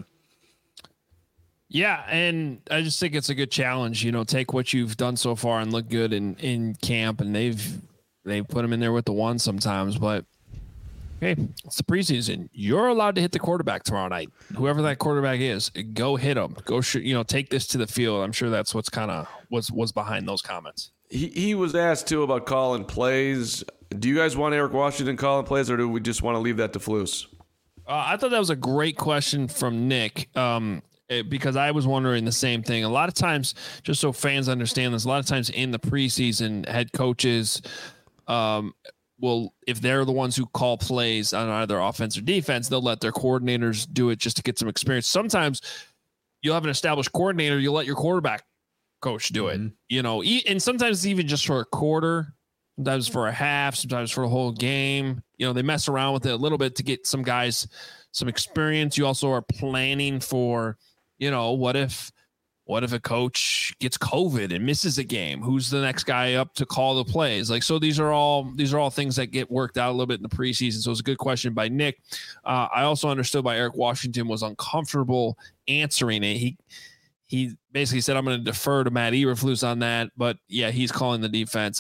A: Yeah, and I just think it's a good challenge. Take what you've done so far and look good in camp, and they've put him in there with the one sometimes. But hey, it's the preseason. You're allowed to hit the quarterback tomorrow night. Whoever that quarterback is, go hit him. Go shoot. Take this to the field. I'm sure that's what's kind of was behind those comments.
B: He was asked too about calling plays. Do you guys want Eric Washington calling plays, or do we just want to leave that to Flus?
A: I thought that was a great question from Nick. Because I was wondering the same thing. A lot of times, just so fans understand this, a lot of times in the preseason, head coaches will, if they're the ones who call plays on either offense or defense, they'll let their coordinators do it just to get some experience. Sometimes you'll have an established coordinator, you'll let your quarterback coach do it. And sometimes it's even just for a quarter, sometimes for a half, sometimes for a whole game. They mess around with it a little bit to get some guys some experience. You also are planning for, what if a coach gets COVID and misses a game? Who's the next guy up to call the plays? So these are all things that get worked out a little bit in the preseason. So it's a good question by Nick. I also understood why Eric Washington was uncomfortable answering it. He basically said, I'm going to defer to Matt Eberflus on that. But yeah, he's calling the defense.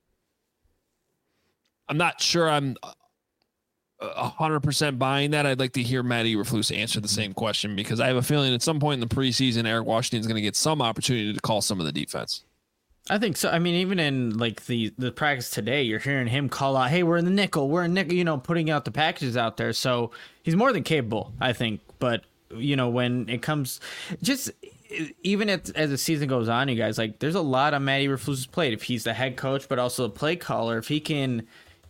A: I'm not sure I'm 100% buying that. I'd like to hear Matt Eberflus answer the same question, because I have a feeling at some point in the preseason, Eric Washington is going to get some opportunity to call some of the defense.
C: I think so. Even in the practice today, you're hearing him call out, "Hey, we're in the nickel, putting out the packages out there." So he's more than capable, I think. But when it comes, just even as the season goes on, you guys, there's a lot on Matt Eberflus's plate. If he's the head coach, but also the play caller, if he can,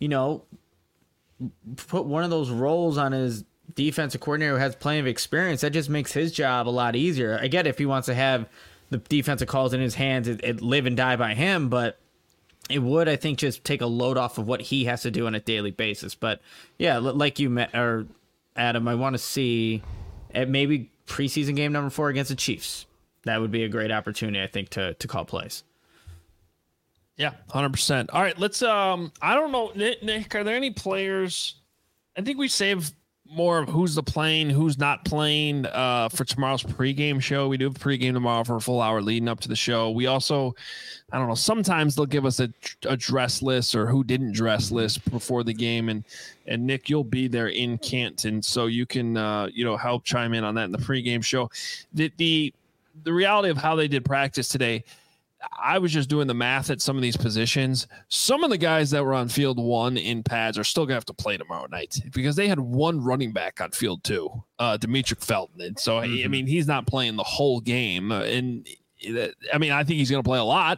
C: put one of those roles on his defensive coordinator who has plenty of experience, that just makes his job a lot easier. I get if he wants to have the defensive calls in his hands, it live and die by him, but it would, I think, just take a load off of what he has to do on a daily basis. But yeah, like you met, or Adam, I want to see at maybe preseason game number 4 against the Chiefs. That would be a great opportunity, I think, to call plays.
A: Yeah, 100%. All right, let's I don't know, Nick, are there any players? I think we save more of who's playing, who's not playing for tomorrow's pregame show. We do have a pregame tomorrow for a full hour leading up to the show. We also, I don't know, sometimes they'll give us a dress list or who didn't dress list before the game. And Nick, you'll be there in Canton, so you can, help chime in on that in the pregame show. The reality of how they did practice today, I was just doing the math at some of these positions. Some of the guys that were on field 1 in pads are still going to have to play tomorrow night because they had one running back on field 2, Demetric Felton. And so, I mean, he's not playing the whole game. And I mean, I think he's going to play a lot.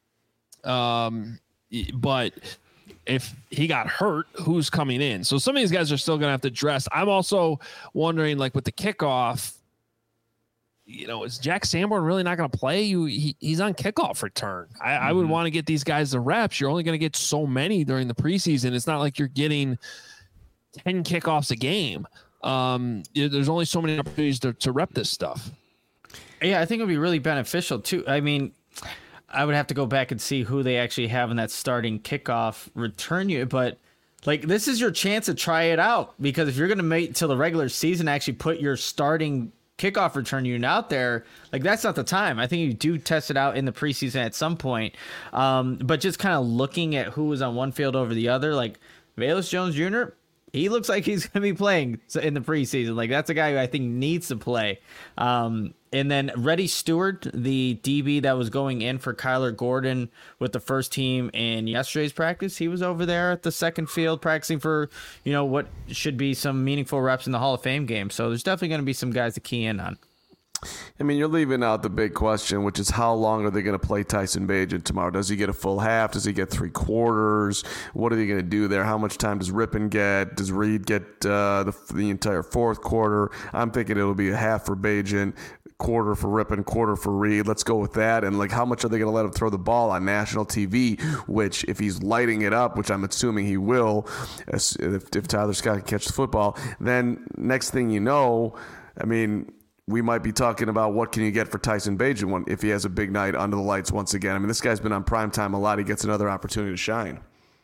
A: But if he got hurt, who's coming in? So some of these guys are still going to have to dress. I'm also wondering, like with the kickoff, is Jack Sanborn really not going to play? He's on kickoff return. I would want to get these guys the reps. You're only going to get so many during the preseason. It's not like you're getting 10 kickoffs a game. There's only so many opportunities to rep this stuff.
C: Yeah, I think it would be really beneficial too. I mean, I would have to go back and see who they actually have in that starting kickoff return unit, but like this is your chance to try it out, because if you're going to wait till the regular season, actually put your starting kickoff return unit out there, like that's not the time. I think you do test it out in the preseason at some point. But just kind of looking at who was on one field over the other, like Velus Jones Jr., he looks like he's going to be playing in the preseason. Like that's a guy who I think needs to play. And then Reddy Stewart, the DB that was going in for Kyler Gordon with the first team in yesterday's practice, he was over there at the second field practicing for, what should be some meaningful reps in the Hall of Fame game. So there's definitely going to be some guys to key in on.
B: I mean, you're leaving out the big question, which is how long are they going to play Tyson Bagent tomorrow? Does he get a full half? Does he get 3/4? What are they going to do there? How much time does Rippon get? Does Reed get the entire fourth quarter? I'm thinking it'll be a half for Bagent, quarter for Rippon, quarter for Reed. Let's go with that. And like, how much are they going to let him throw the ball on national TV? Which, if he's lighting it up, which I'm assuming he will, if Tyler Scott can catch the football, then next thing you know, I mean, we might be talking about what can you get for Tyson Bagent if he has a big night under the lights once again. I mean, this guy's been on primetime a lot. He gets another opportunity to shine.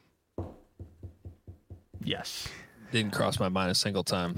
C: Yes.
A: Didn't cross my mind a single time.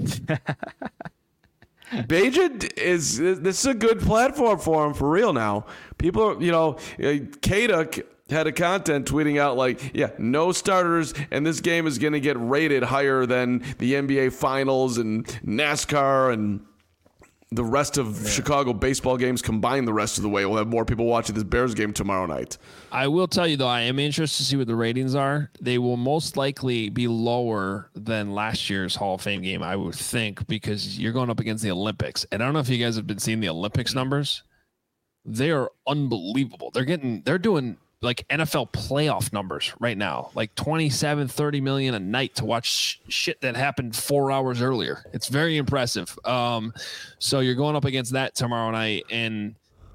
B: Bagent this is a good platform for him for real now. People, Kaduk had a content tweeting out like, no starters, and this game is going to get rated higher than the NBA Finals and NASCAR and the rest of Chicago baseball games combined the rest of the way. We'll have more people watching this Bears game tomorrow night.
A: I will tell you, though, I am interested to see what the ratings are. They will most likely be lower than last year's Hall of Fame game, I would think, because you're going up against the Olympics. And I don't know if you guys have been seeing the Olympics numbers. They are unbelievable. They're doing like NFL playoff numbers right now, like 27, 30 million a night to watch shit that happened 4 hours earlier. It's very impressive. So you're going up against that tomorrow night. And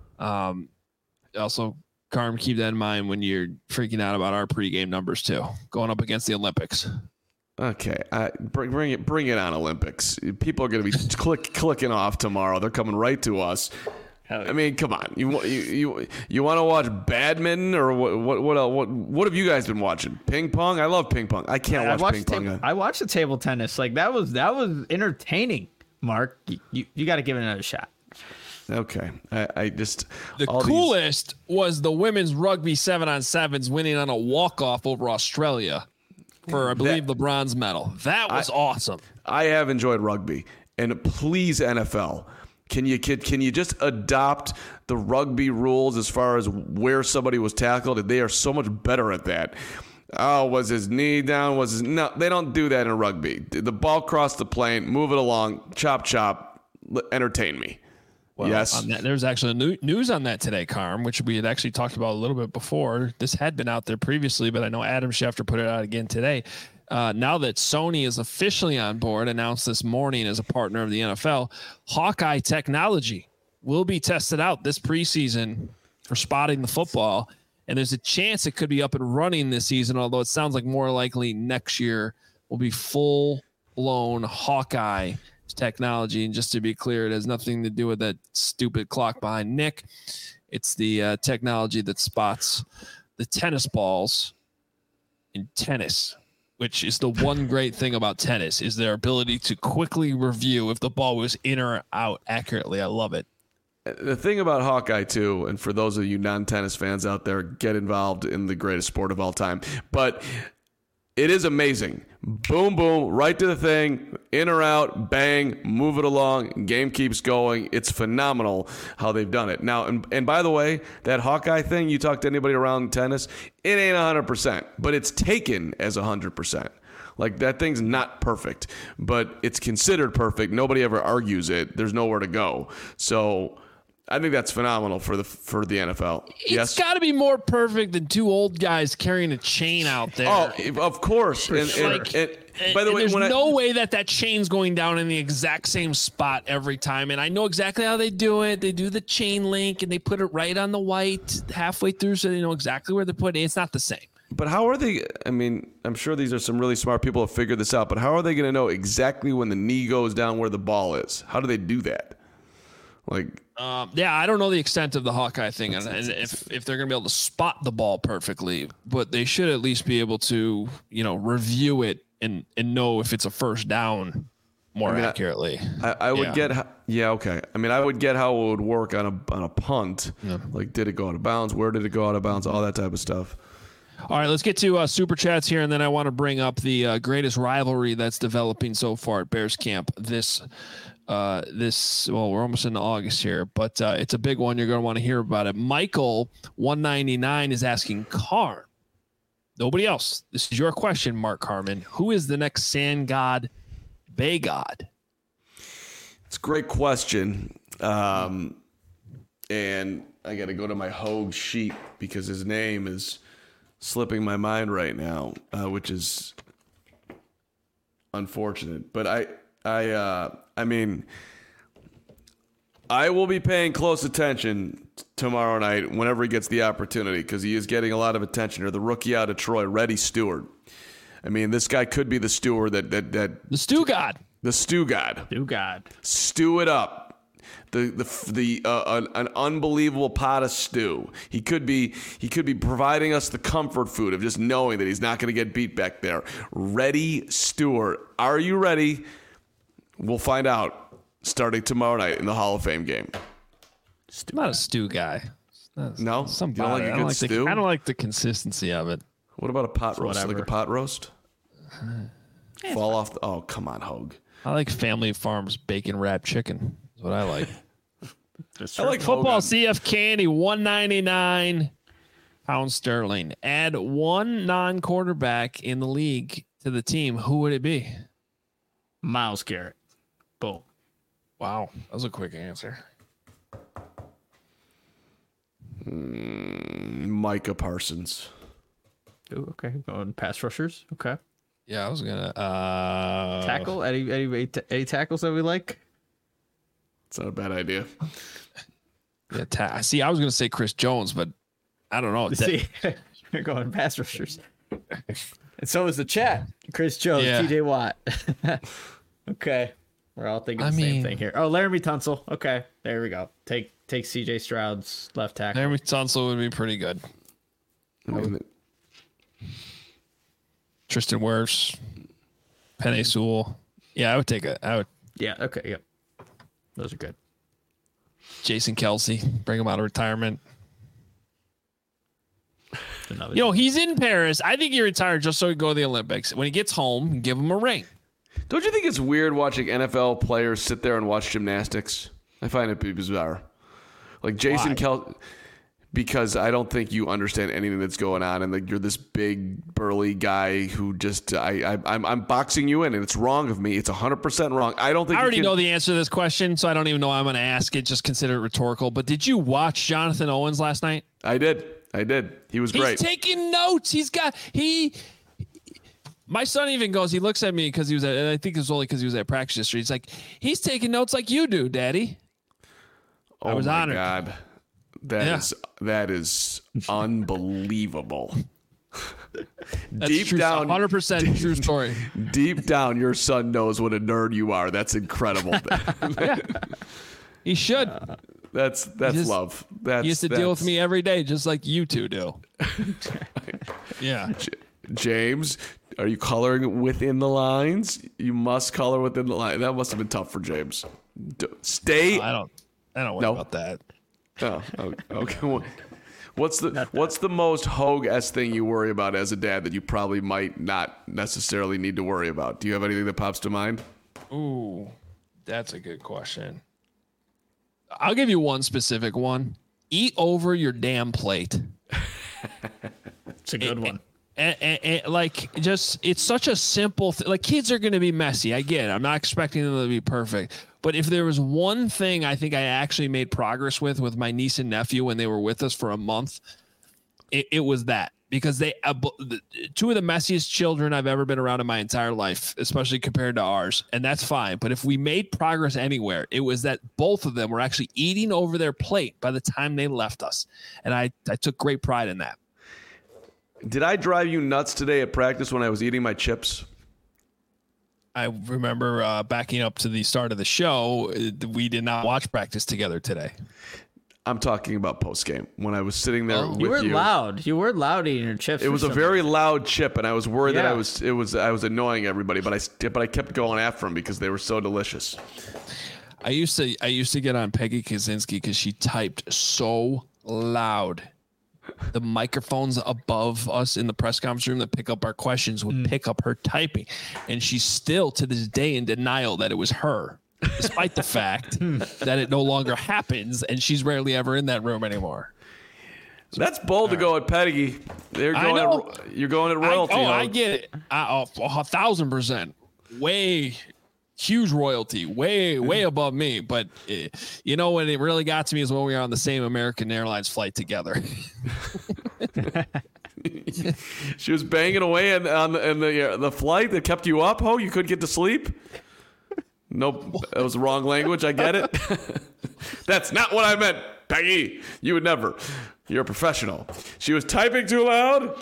A: also, Carm, keep that in mind when you're freaking out about our pregame numbers too, going up against the Olympics.
B: Okay, bring it on, Olympics. People are going to be clicking off tomorrow. They're coming right to us. I mean, come on. You want to watch badminton or what have you guys been watching? Ping pong? I love ping pong. I can't watch ping pong.
C: I watched the table tennis. Like that was entertaining. Mark, you got to give it another shot.
B: Okay, I just
A: the coolest was the women's rugby 7-on-7s winning on a walk-off over Australia for I believe the bronze medal. That was awesome.
B: I have enjoyed rugby, and please NFL. Can you just adopt the rugby rules as far as where somebody was tackled? They are so much better at that. Oh, was his knee down? No, they don't do that in rugby. The ball crossed the plane, move it along, chop, entertain me.
A: Well,
B: yes.
A: There's actually news on that today, Carm, which we had actually talked about a little bit before. This had been out there previously, but I know Adam Schefter put it out again today. Now that Sony is officially on board, announced this morning as a partner of the NFL, Hawkeye technology will be tested out this preseason for spotting the football. And there's a chance it could be up and running this season, although it sounds like more likely next year will be full-blown Hawkeye technology. And just to be clear, it has nothing to do with that stupid clock behind Nick. It's the technology that spots the tennis balls in tennis, which is the one great thing about tennis, is their ability to quickly review if the ball was in or out accurately. I love it.
B: The thing about Hawkeye, too, and for those of you non-tennis fans out there, get involved in the greatest sport of all time. But it is amazing. Boom, boom, right to the thing, in or out, bang, move it along, game keeps going. It's phenomenal how they've done it. Now, and by the way, that Hawkeye thing, you talk to anybody around tennis, it ain't 100%, but it's taken as 100%. Like, that thing's not perfect, but it's considered perfect. Nobody ever argues it. There's nowhere to go. So I think that's phenomenal for the NFL.
A: It's got to be more perfect than two old guys carrying a chain out there.
B: Oh, of course. And by the way,
A: there's no way that chain's going down in the exact same spot every time. And I know exactly how they do it. They do the chain link and they put it right on the white halfway through, so they know exactly where they're putting it. It's not the same.
B: But how are they? I mean, I'm sure these are some really smart people who have figured this out. But how are they going to know exactly when the knee goes down where the ball is? How do they do that? Like,
A: I don't know the extent of the Hawkeye thing, and if they're going to be able to spot the ball perfectly, but they should at least be able to, review it and know if it's a first down more accurately.
B: I would get, okay. I mean, I would get how it would work on a punt. Yeah. Like, did it go out of bounds? Where did it go out of bounds? All that type of stuff.
A: All right, let's get to super chats here, and then I want to bring up the greatest rivalry that's developing so far at Bears camp this we're almost into August here, but it's a big one. You're going to want to hear about it. Michael 199 is asking Carm. Nobody else. This is your question, Mark Harmon. Who is the next sand god, bay god?
B: It's a great question. And I got to go to my Hogue sheet because his name is slipping my mind right now, which is unfortunate. But I mean, I will be paying close attention tomorrow night whenever he gets the opportunity because he is getting a lot of attention. Or the rookie out of Troy, Reddy Stewart. I mean, this guy could be the stewer that the
A: stew god.
B: The stew god.
C: Stew god.
B: Stew it up. An unbelievable pot of stew. He could be providing us the comfort food of just knowing that he's not going to get beat back there. Reddy Stewart. Are you ready? We'll find out starting tomorrow night in the Hall of Fame game.
A: I'm not a stew guy.
B: No? You don't like a good stew?
A: I don't like the consistency of it.
B: What about a pot roast?
C: Whatever.
B: Like a pot roast? Fall off. Oh, come on, Hogue.
A: I like Family Farms bacon wrapped chicken. That's what I like.
B: I like
A: football. CF Candy 199 pound sterling. Add one non-quarterback in the league to the team. Who would it be?
C: Myles Garrett. Boom.
A: Wow, that was a quick answer.
B: Micah Parsons.
C: Ooh, okay, going pass rushers. Okay.
A: Yeah, I was gonna
C: tackle. Any tackles that we like?
B: It's not a bad idea.
A: Yeah, see, I was gonna say Chris Jones, but I don't know.
C: See, you're going pass rushers, and so is the chat. Chris Jones,
A: Yeah.
C: TJ Watt. Okay, we're all thinking the same thing here. Oh, Laramie Tunsil. Okay, there we go. Take CJ Stroud's left tackle.
A: Laramie Tunsil would be pretty good. Tristan Wirfs, Penei Sewell. Yeah, I would take it.
C: Yeah. Okay. Yep. Those are good.
A: Jason Kelsey, bring him out of retirement.
C: Another
A: he's in Paris. I think he retired just so he can go to the Olympics. When he gets home, give him a ring.
B: Don't you think it's weird watching NFL players sit there and watch gymnastics? I find it bizarre. Like Jason Kelsey, because I don't think you understand anything that's going on, and like you're this big burly guy who just I'm boxing you in, and it's wrong of me. It's 100% wrong. I don't think
A: I already know the answer to this question, so I don't even know why I'm going to ask it. Just consider it rhetorical. But did you watch Jonathan Owens last night?
B: I did. He was great.
A: He's taking notes. My son even goes, he looks at me because he was at, and I think it was only because he was at practice yesterday. He's like, he's taking notes like you do, Daddy. I was honored.
B: God. That is unbelievable.
A: That's
B: deep
A: true,
B: down,
A: 100% true story.
B: Deep down, your son knows what a nerd you are. That's incredible.
A: Yeah. He should.
B: That's love.
A: He used to deal with me every day, just like you two do. Yeah.
B: James, Are you coloring within the lines? You must color within the line. That must have been tough for James. Stay.
A: I don't worry about that.
B: Oh, okay. What's the most Hogue-esque thing you worry about as a dad that you probably might not necessarily need to worry about? Do you have anything that pops to mind?
A: Ooh, that's a good question. I'll give you one specific one. Eat over your damn plate.
C: It's a good one.
A: And like, just, it's such a simple thing. Like, kids are going to be messy. I get it. I'm not expecting them to be perfect. But if there was one thing I think I actually made progress with my niece and nephew when they were with us for a month, it was that. Because they, two of the messiest children I've ever been around in my entire life, especially compared to ours. And that's fine. But if we made progress anywhere, it was that both of them were actually eating over their plate by the time they left us. And I took great pride in that.
B: Did I drive you nuts today at practice when I was eating my chips?
A: I remember backing up to the start of the show, we did not watch practice together today.
B: I'm talking about post game when I was sitting there with you.
C: You were loud. You were loud eating your chips.
B: It was a very loud chip, and I was worried that I was annoying everybody, but I kept going after them because they were so delicious.
A: I used to get on Peggy Kaczynski because she typed so loud. The microphones above us in the press conference room that pick up our questions would pick up her typing, and she's still to this day in denial that it was her, despite the fact that it no longer happens and she's rarely ever in that room anymore.
B: That's bold to go at Peggy. You're going at royalty.
A: I get it. 1,000%. Way huge royalty, way above me. But you know, when it really got to me is when we were on the same American Airlines flight together.
B: She was banging away on the flight that kept you up. Oh, you couldn't get to sleep. Nope, that was the wrong language. I get it. That's not what I meant, Peggy. You would never. You're a professional. She was typing too loud.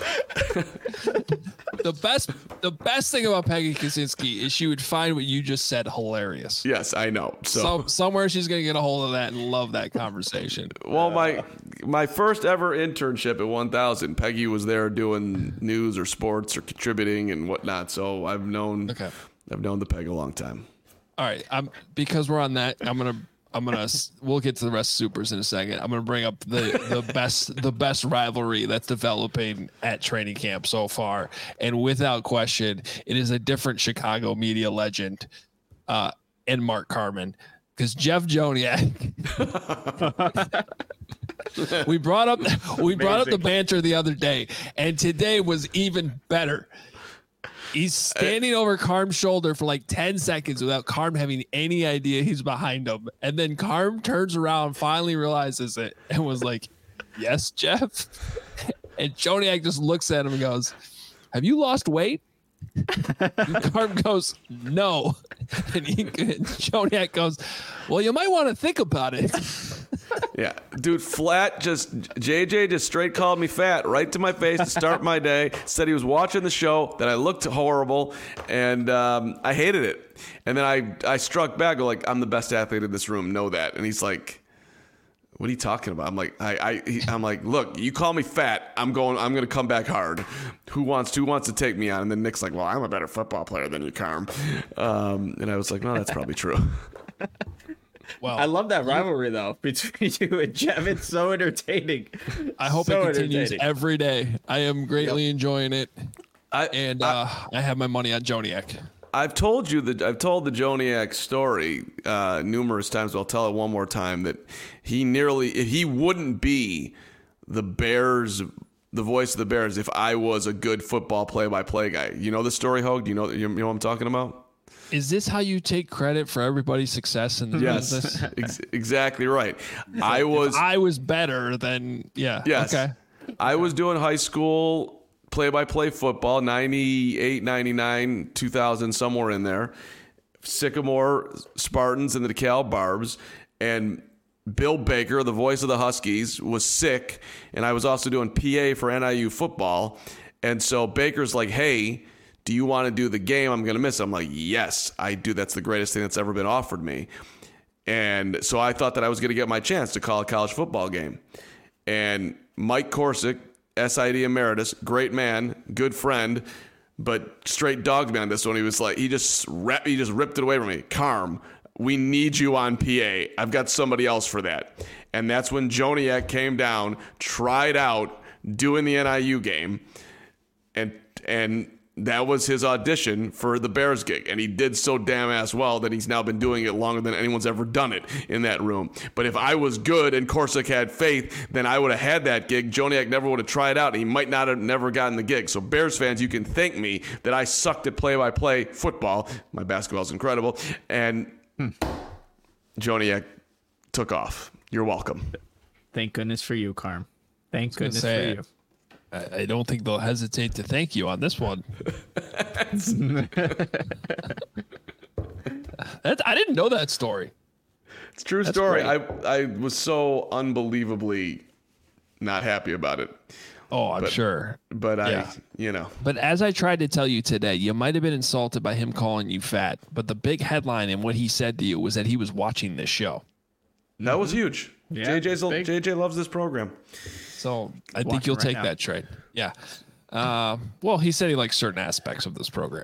A: The best thing about Peggy Kaczynski is she would find what you just said hilarious.
B: Yes, I know. So
A: somewhere she's gonna get a hold of that and love that conversation.
B: Well, my first ever internship at 1000, Peggy was there doing news or sports or contributing and whatnot. So I've known the Peg a long time.
A: All right, because we're on that, we'll get to the rest of Supers in a second. I'm gonna bring up the best rivalry that's developing at training camp so far, and without question, it is a different Chicago media legend, and Mark Carman, because Jeff Joniak. we brought up the banter the other day, and today was even better. He's standing over Carm's shoulder for like 10 seconds without Carm having any idea he's behind him. And then Carm turns around, finally realizes it, and was like, "Yes, Jeff?" And Joniak just looks at him and goes, "Have you lost weight?" And Carm goes, "No." And Joniak goes, "Well, you might want to think about it."
B: Yeah, dude, JJ just straight called me fat right to my face to start my day. Said he was watching the show, that I looked horrible, and I hated it. And then I struck back, like, I'm the best athlete in this room, know that. And he's like, "What are you talking about?" I'm like, I'm like, "Look, you call me fat, I'm going to come back hard. Who wants to take me on?" And then Nick's like, "Well, I'm a better football player than you, Carm." And I was like, "No, that's probably true."
C: Well, I love that rivalry though between you and Jeff. It's so entertaining.
A: I hope it continues every day. I am greatly enjoying it, I have my money on Joniak.
B: I've told the Joniak story numerous times, but I'll tell it one more time that he wouldn't be the Bears, the voice of the Bears, if I was a good football play-by-play guy. You know the story, Hogue? Do you know what I'm talking about?
A: Is this how you take credit for everybody's success in the business?
B: Yes, exactly right. I
A: was better than, yeah.
B: Yes.
A: Okay.
B: I was doing high school play-by-play football, 98, 99, 2000, somewhere in there. Sycamore Spartans and the DeKalb Barbs. And Bill Baker, the voice of the Huskies, was sick. And I was also doing PA for NIU football. And so Baker's like, "Hey, do you want to do the game? I'm going to miss it." I'm like, "Yes, I do. That's the greatest thing that's ever been offered me." And so I thought that I was going to get my chance to call a college football game. And Mike Korsick, SID emeritus, great man, good friend, but straight dogged me on this one. He was like, he just ripped it away from me. Carm, we need you on PA. I've got somebody else for that. And that's when Joniak came down, tried out doing the NIU game, and that was his audition for the Bears gig. And he did so damn ass well that he's now been doing it longer than anyone's ever done it in that room. But if I was good and Corsic had faith, then I would have had that gig. Joniak never would have tried out, and he might not have never gotten the gig. So Bears fans, you can thank me that I sucked at play-by-play football. My basketball's incredible. And Joniak took off. You're welcome.
C: Thank goodness for you, Carm. Thank goodness for you.
A: I don't think they'll hesitate to thank you on this one. I didn't know that story.
B: It's a true story. I was so unbelievably not happy about it.
A: Oh, I'm sure.
B: But
A: yeah. But as I tried to tell you today, you might have been insulted by him calling you fat. But the big headline in what he said to you was that he was watching this show.
B: That was huge.
C: Yeah,
B: JJ loves this program.
A: So I think you'll take that trade. Yeah. Well, he said he likes certain aspects of this program.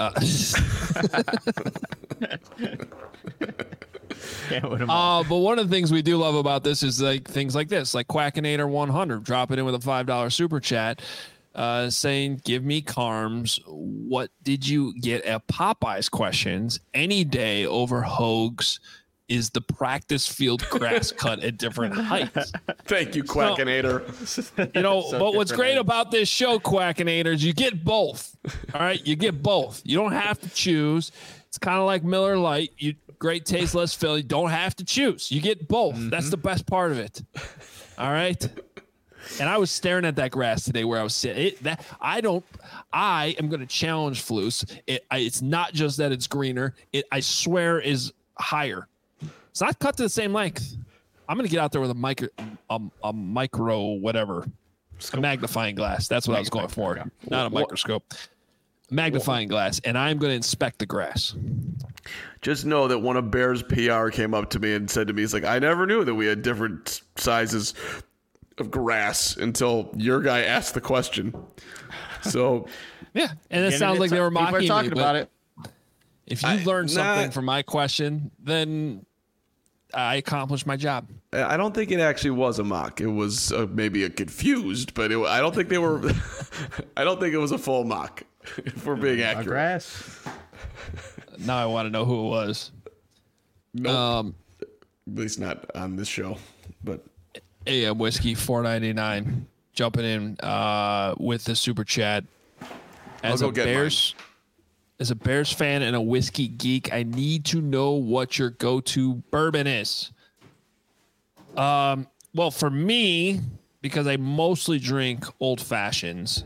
A: But one of the things we do love about this is like things like this, like Quackinator 100 dropping in with a $5 super chat, saying, "Give me Carms. What did you get at Popeyes? Questions any day over Hoag's. Is the practice field grass cut at different heights?"
B: Thank you, Quackinator.
A: But what's great about this show, Quackinators, you get both. All right, you get both. You don't have to choose. It's kind of like Miller Lite. Great taste, less fill. You don't have to choose. You get both. Mm-hmm. That's the best part of it. All right. And I was staring at that grass today where I was sitting. I am going to challenge Flus. It's not just that it's greener. I swear is higher. It's not cut to the same length. I'm going to get out there with a micro whatever, a magnifying glass. That's what I was going for. Yeah. Not a microscope. Magnifying glass, and I'm going to inspect the grass.
B: Just know that one of Bears PR came up to me and said to me, he's like, "I never knew that we had different sizes of grass until your guy asked the question." So
A: yeah, and it sounds like they were mocking me.
C: Talking about it.
A: If you learned something from my question, then I accomplished my job.
B: I don't think it actually was a mock. It was maybe a confused, but I don't think they were. I don't think it was a full mock. If we're being accurate.
C: Grass.
A: Now I want to know who it was.
B: Nope. At least not on this show. But
A: AM Whiskey $4.99 jumping in with the super chat. As a Bears fan and a whiskey geek, I need to know what your go-to bourbon is. Well, for me, because I mostly drink old fashions,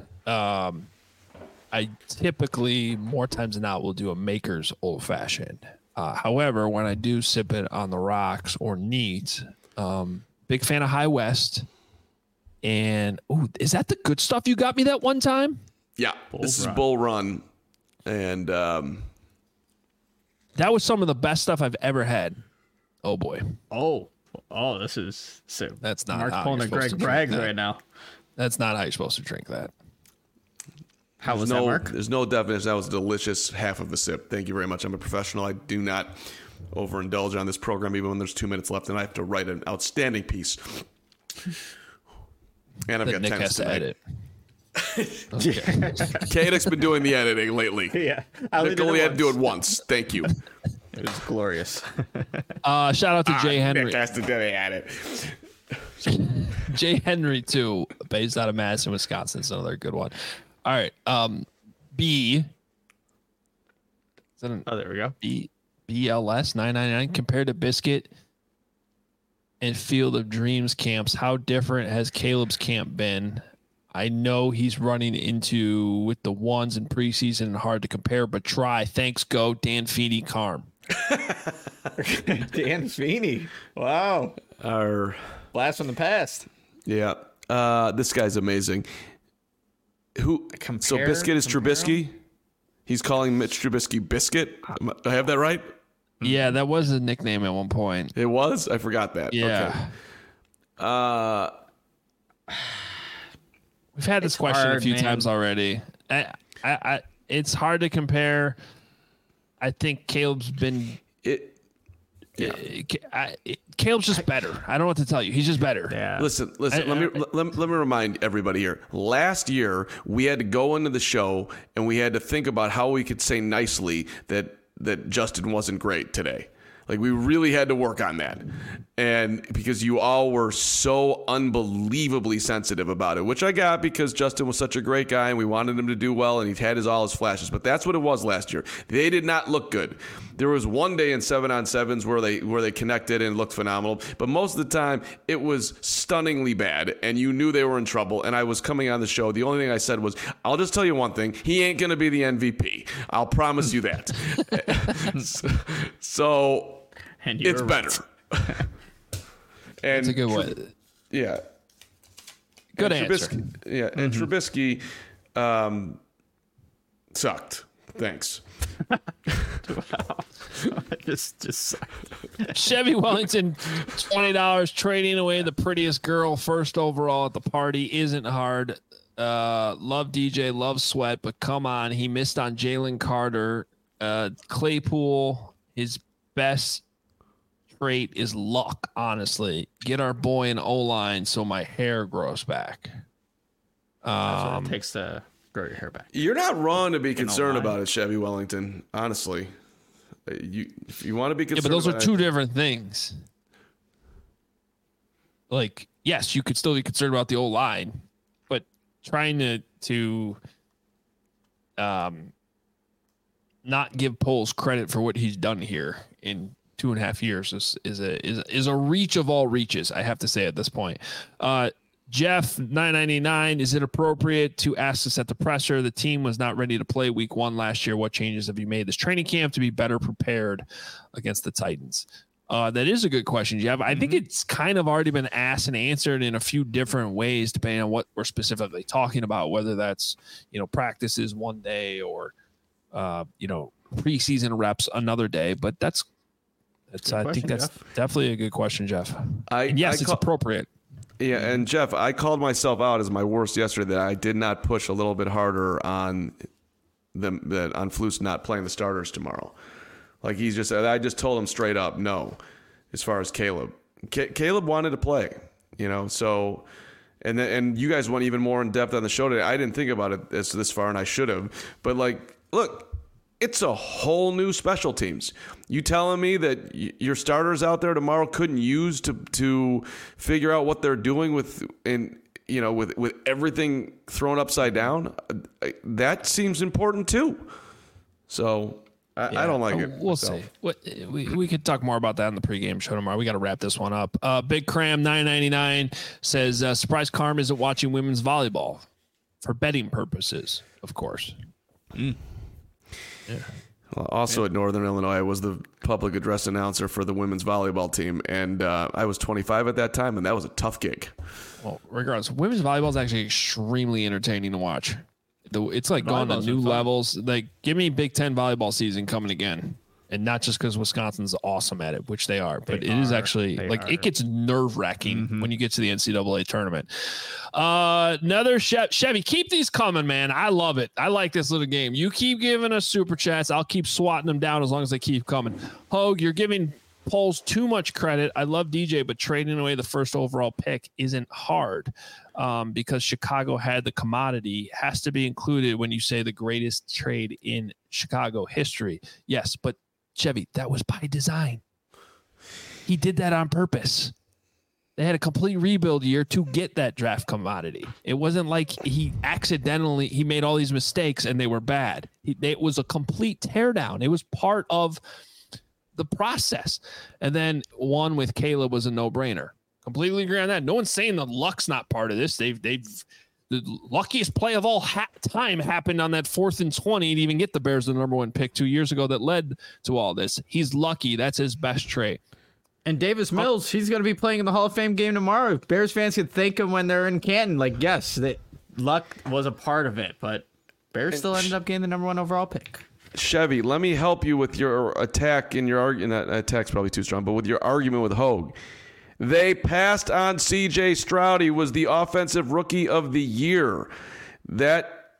A: I typically, more times than not, will do a Maker's Old Fashioned. However, when I do sip it on the rocks or neat, big fan of High West. And, is that the good stuff you got me that one time?
B: Yeah, this is Bull Run. And
A: that was some of the best stuff I've ever had. Oh, boy.
C: Oh, this is sick.
A: That's not
C: Mark's pulling a Greg Braggs right now.
A: That's not how you're supposed to drink that.
C: How was that, Mark?
B: There's no definition. That was a delicious half of a sip. Thank you very much. I'm a professional. I do not overindulge on this program, even when there's 2 minutes left, and I have to write an outstanding pice. And I've got
A: Nick
B: tennis
A: has to edit.
B: Kadek's been doing the editing lately.
C: Yeah.
B: Nick only had to do it once. Thank you.
C: It was glorious.
A: Shout out to Jay Henry.
B: Nick has to do it.
A: Jay Henry, too, based out of Madison, Wisconsin. It's another good one. All right. B. Is that
C: there we go.
A: BLS 999 compared to Biscuit and Field of Dreams camps. How different has Caleb's camp been? I know he's running into with the ones in preseason and hard to compare, but try. Thanks, go Dan Feeney Carm.
C: Dan Feeney. Wow.
B: Our
C: blast from the past.
B: Yeah. This guy's amazing. So Biscuit is Trubisky? He's calling Mitch Trubisky Biscuit? Do I have that right?
A: Yeah, that was a nickname at one point.
B: It was? I forgot that.
A: Yeah.
B: Okay.
A: We've had this question a few times already. it's hard to compare. I think Caleb's been. Caleb's just better. I don't know what to tell you. He's just better.
B: Yeah. Listen. Let me remind everybody here. Last year, we had to go into the show and we had to think about how we could say nicely that Justin wasn't great today. Like, we really had to work on that. And because you all were so unbelievably sensitive about it, which I got because Justin was such a great guy and we wanted him to do well and he had all his flashes. But that's what it was last year. They did not look good. There was one day in 7-on-7s where they connected and looked phenomenal. But most of the time, it was stunningly bad. And you knew they were in trouble. And I was coming on the show. The only thing I said was, I'll just tell you one thing. He ain't going to be the MVP. I'll promise you that. So... And it's better.
A: That's a good one.
B: Yeah.
A: Good answer.
B: Yeah, and Trubisky sucked. Thanks.
C: Wow. just sucked.
A: Chevy Wellington, $20, trading away the prettiest girl first overall at the party isn't hard. Love DJ, love Sweat, but come on. He missed on Jalen Carter. Claypool, his best trait is luck, honestly. Get our boy an O-line so my hair grows back.
C: That's what it takes to grow your hair back.
B: You're not wrong to be concerned about it, Chevy Wellington, honestly. If you want to be concerned,
A: but those are two different things. Like, yes, you could still be concerned about the O-line, but trying to not give Poles credit for what he's done here in 2.5 years is a reach of all reaches, I have to say at this point. Jeff 999, is it appropriate to ask us at the presser? The team was not ready to play week 1 last year. What changes have you made this training camp to be better prepared against the Titans? That is a good question, Jeff. I think it's kind of already been asked and answered in a few different ways, depending on what we're specifically talking about, whether that's, practices one day or, preseason reps another day. But I think that's definitely a good question, Jeff. It's appropriate.
B: Yeah, and Jeff, I called myself out as my worst yesterday that I did not push a little bit harder on them, on Flus not playing the starters tomorrow. Like I just told him straight up no, as far as Caleb. Caleb wanted to play, so, and you guys went even more in depth on the show today. I didn't think about it this far, and I should have. But look. It's a whole new special teams. You telling me that your starters out there tomorrow couldn't use to figure out what they're doing with everything thrown upside down? That seems important too. So I don't like it.
A: We'll see. We could talk more about that in the pregame show tomorrow. We got to wrap this one up. Big Cram 999 says, surprised Carm isn't watching women's volleyball for betting purposes, of course.
B: Yeah. Well, also at Northern Illinois, I was the public address announcer for the women's volleyball team, and I was 25 at that time, and that was a tough gig.
A: Well, regardless, women's volleyball is actually extremely entertaining to watch. It's like going to new levels. Like, give me Big Ten volleyball season coming again. And not just because Wisconsin's awesome at it, which they are, but is actually it gets nerve-wracking when you get to the NCAA tournament. Another Chevy, keep these coming, man. I love it. I like this little game. You keep giving us super chats. I'll keep swatting them down as long as they keep coming. Hogue, you're giving Poles too much credit. I love DJ, but trading away the first overall pick isn't hard because Chicago had the commodity. Has to be included when you say the greatest trade in Chicago history. Yes, but Chevy, that was by design. He did that on purpose. They had a complete rebuild year to get that draft commodity. It wasn't like he made all these mistakes and they were bad. It was a complete teardown. It was part of the process. And then one with Caleb was a no-brainer. Completely agree on that. No one's saying the luck's not part of this. The luckiest play of all time happened on that 4th and 20 to even get the Bears the number 1 pick 2 years ago that led to all this. He's lucky. That's his best trait.
C: And Davis Mills, he's going to be playing in the Hall of Fame game tomorrow. Bears fans can thank him when they're in Canton. Yes, luck was a part of it, but Bears still ended up getting the number 1 overall pick.
B: Chevy, let me help you with your attack in your argument. Attack's probably too strong, but with your argument with Hogue. They passed on C.J. Stroud. He was the offensive rookie of the year. That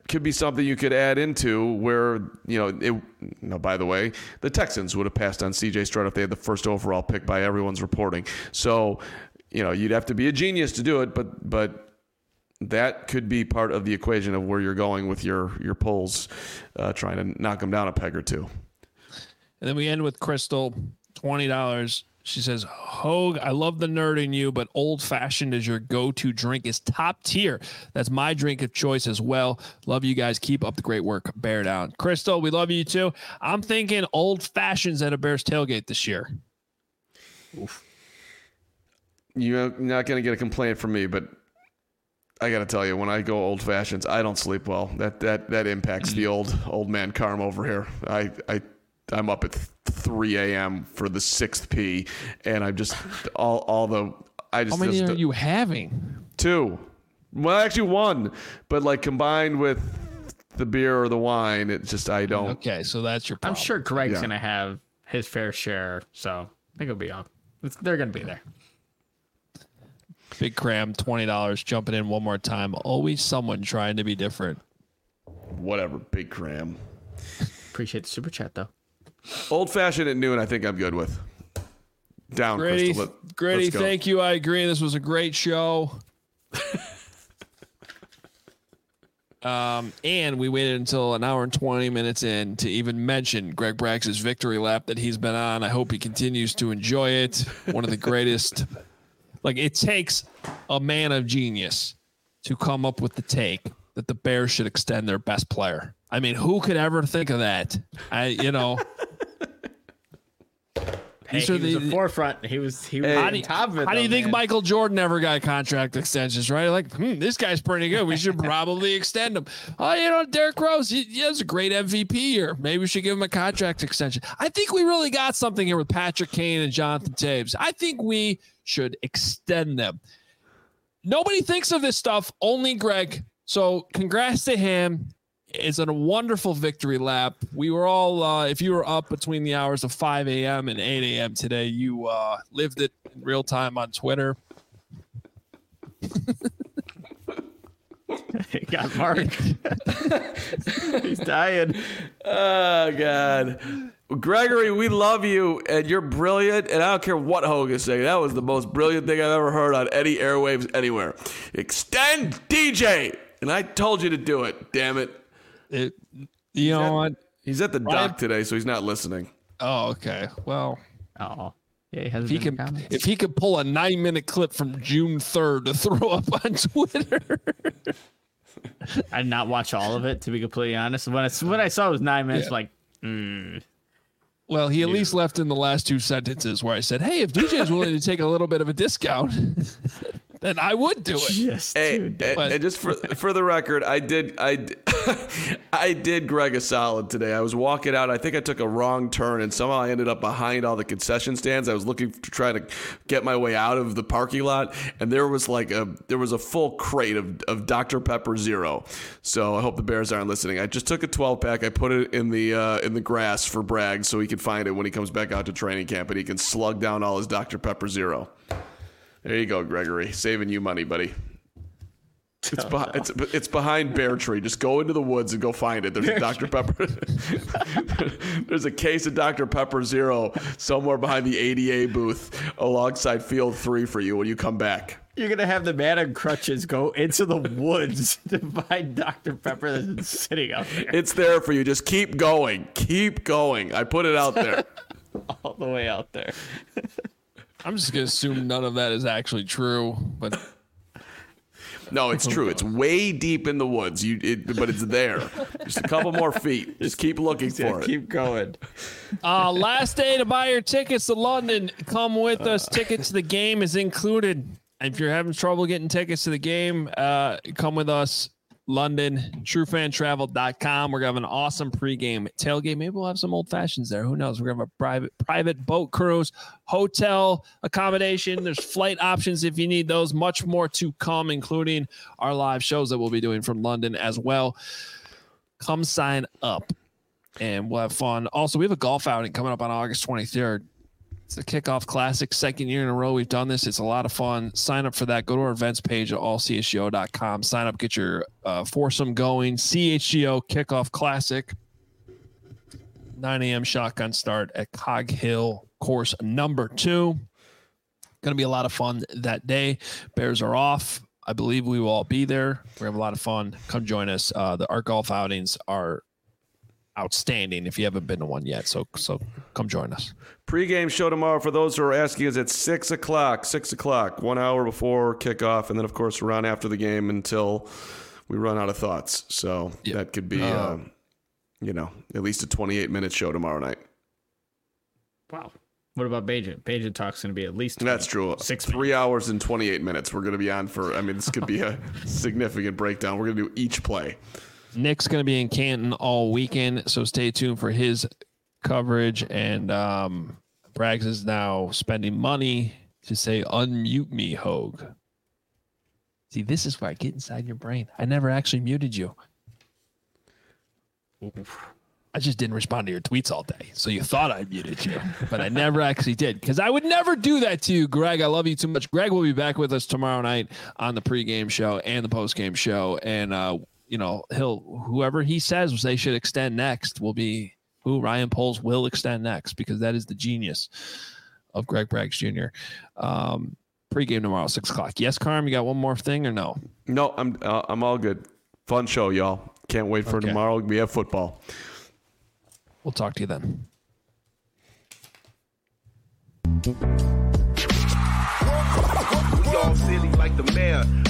B: could be something you could add into where, by the way, the Texans would have passed on C.J. Stroud if they had the first overall pick by everyone's reporting. So, you'd have to be a genius to do it, but that could be part of the equation of where you're going with your polls, trying to knock them down a peg or two.
A: And then we end with Crystal, $20. She says, Hogue, I love the nerd in you, but Old Fashioned as your go-to drink is top tier. That's my drink of choice as well. Love you guys. Keep up the great work. Bear down. Crystal, we love you too. I'm thinking Old Fashions at a Bears tailgate this year.
B: Oof. You're not going to get a complaint from me, but I got to tell you, when I go Old Fashions, I don't sleep well. That impacts the old man Carm over here. I'm up at 3 a.m. for the 6th P, and I'm just How many are you having? 2. Well, actually 1, but combined with the beer or the wine, it's just I don't.
A: Okay, so that's your problem.
C: I'm sure Greg's gonna have his fair share, so I think it'll be on. They're gonna be there.
A: Big Cram, $20, jumping in one more time. Always someone trying to be different.
B: Whatever, Big Cram.
C: Appreciate the super chat though.
B: Old Fashioned at noon, I think I'm good with. Down,
A: Grady,
B: Crystal.
A: Grady, thank you. I agree. This was a great show. And we waited until an hour and 20 minutes in to even mention Greg Brax's victory lap that he's been on. I hope he continues to enjoy it. One of the greatest. It takes a man of genius to come up with the take that the Bears should extend their best player. I mean, who could ever think of that?
C: Hey, he was the forefront. He was on top of it.
A: How do you think Michael Jordan ever got contract extensions, right? This guy's pretty good. We should probably extend him. Oh, Derrick Rose, he has a great MVP year. Maybe we should give him a contract extension. I think we really got something here with Patrick Kane and Jonathan Taves. I think we should extend them. Nobody thinks of this stuff, only Greg. So congrats to him. It's a wonderful victory lap. We were all, if you were up between the hours of 5 a.m. and 8 a.m. today, you lived it in real time on Twitter.
C: He got marked. He's dying.
B: Oh, God. Gregory, we love you, and you're brilliant, and I don't care what Hogue is saying. That was the most brilliant thing I've ever heard on any airwaves anywhere. Extend DJ! And I told you to do it, damn it.
A: You know what?
B: He's at the dock today, so he's not listening.
A: Oh, okay. Well,
C: yeah, he hasn't.
A: If he could pull a 9-minute clip from June 3rd to throw up on Twitter.
C: I did not watch all of it, to be completely honest. When I saw it was 9 minutes,
A: Well, he at least left in the last 2 sentences where I said, "Hey, if DJ is willing to take a little bit of a discount." Then I would do it.
C: Yes,
B: and just for the record, I did Greg a solid today. I was walking out. I think I took a wrong turn, and somehow I ended up behind all the concession stands. I was looking to try to get my way out of the parking lot, and there was a full crate of Dr. Pepper Zero. So I hope the Bears aren't listening. I just took a 12-pack. I put it in the grass for Bragg so he can find it when he comes back out to training camp, and he can slug down all his Dr. Pepper Zero. There you go, Gregory. Saving you money, buddy. It's behind Bear Tree. Just go into the woods and go find it. There's a Dr. Pepper. There's a case of Dr. Pepper Zero somewhere behind the ADA booth alongside Field 3 for you when you come back.
C: You're going to have the man on crutches go into the woods to find Dr. Pepper that's sitting out there.
B: It's there for you. Just keep going. Keep going. I put it out there.
C: All the way out there.
A: I'm just going to assume none of that is actually true, but
B: no, it's true. It's way deep in the woods. But it's there. Just a couple more feet. Just keep looking for it.
C: Keep going.
A: Last day to buy your tickets to London. Come with us. Tickets to the game is included. If you're having trouble getting tickets to the game, come with us. London, truefantravel.com. We're going to have an awesome pregame tailgate. Maybe we'll have some old fashions there. Who knows? We're going to have a private boat cruise, hotel accommodation. There's flight options if you need those. Much more to come, including our live shows that we'll be doing from London as well. Come sign up and we'll have fun. Also, we have a golf outing coming up on August 23rd. It's the Kickoff Classic, second year in a row we've done this. It's a lot of fun. Sign up for that. Go to our events page at allchgo.com. Sign up, get your foursome going. CHGO Kickoff Classic, 9 a.m. shotgun start at Cog Hill, course number 2. Going to be a lot of fun that day. Bears are off. I believe we will all be there. We're going to have a lot of fun. Come join us. Our golf outings are outstanding if you haven't been to one yet. So come join us.
B: Pre-game show tomorrow for those who are asking is at 6 o'clock, 1 hour before kickoff. And then, of course, we're on after the game until we run out of thoughts. So that could be, at least a 28-minute show tomorrow night.
C: Wow. What about Bajan? Bajan Talk's going to be at least 20,
B: That's true. 3 hours and 28 minutes. We're going to be on for, this could be a significant breakdown. We're going to do each play.
A: Nick's going to be in Canton all weekend, so stay tuned for his coverage. And Braggs is now spending money to say, unmute me, Hogue. See, this is where I get inside your brain. I never actually muted you. I just didn't respond to your tweets all day, so you thought I muted you, but I never actually did, because I would never do that to you, Greg. I love you too much. Greg will be back with us tomorrow night on the pregame show and the postgame show, and whoever he says they should extend next will be who Ryan Poles will extend next, because that is the genius of Greg Braggs Jr. Pregame tomorrow, 6 o'clock. Yes, Carm, you got one more thing or no?
B: No, I'm all good. Fun show, y'all. Can't wait for tomorrow. We have football.
A: We'll talk to you then.
F: We all silly like the mayor.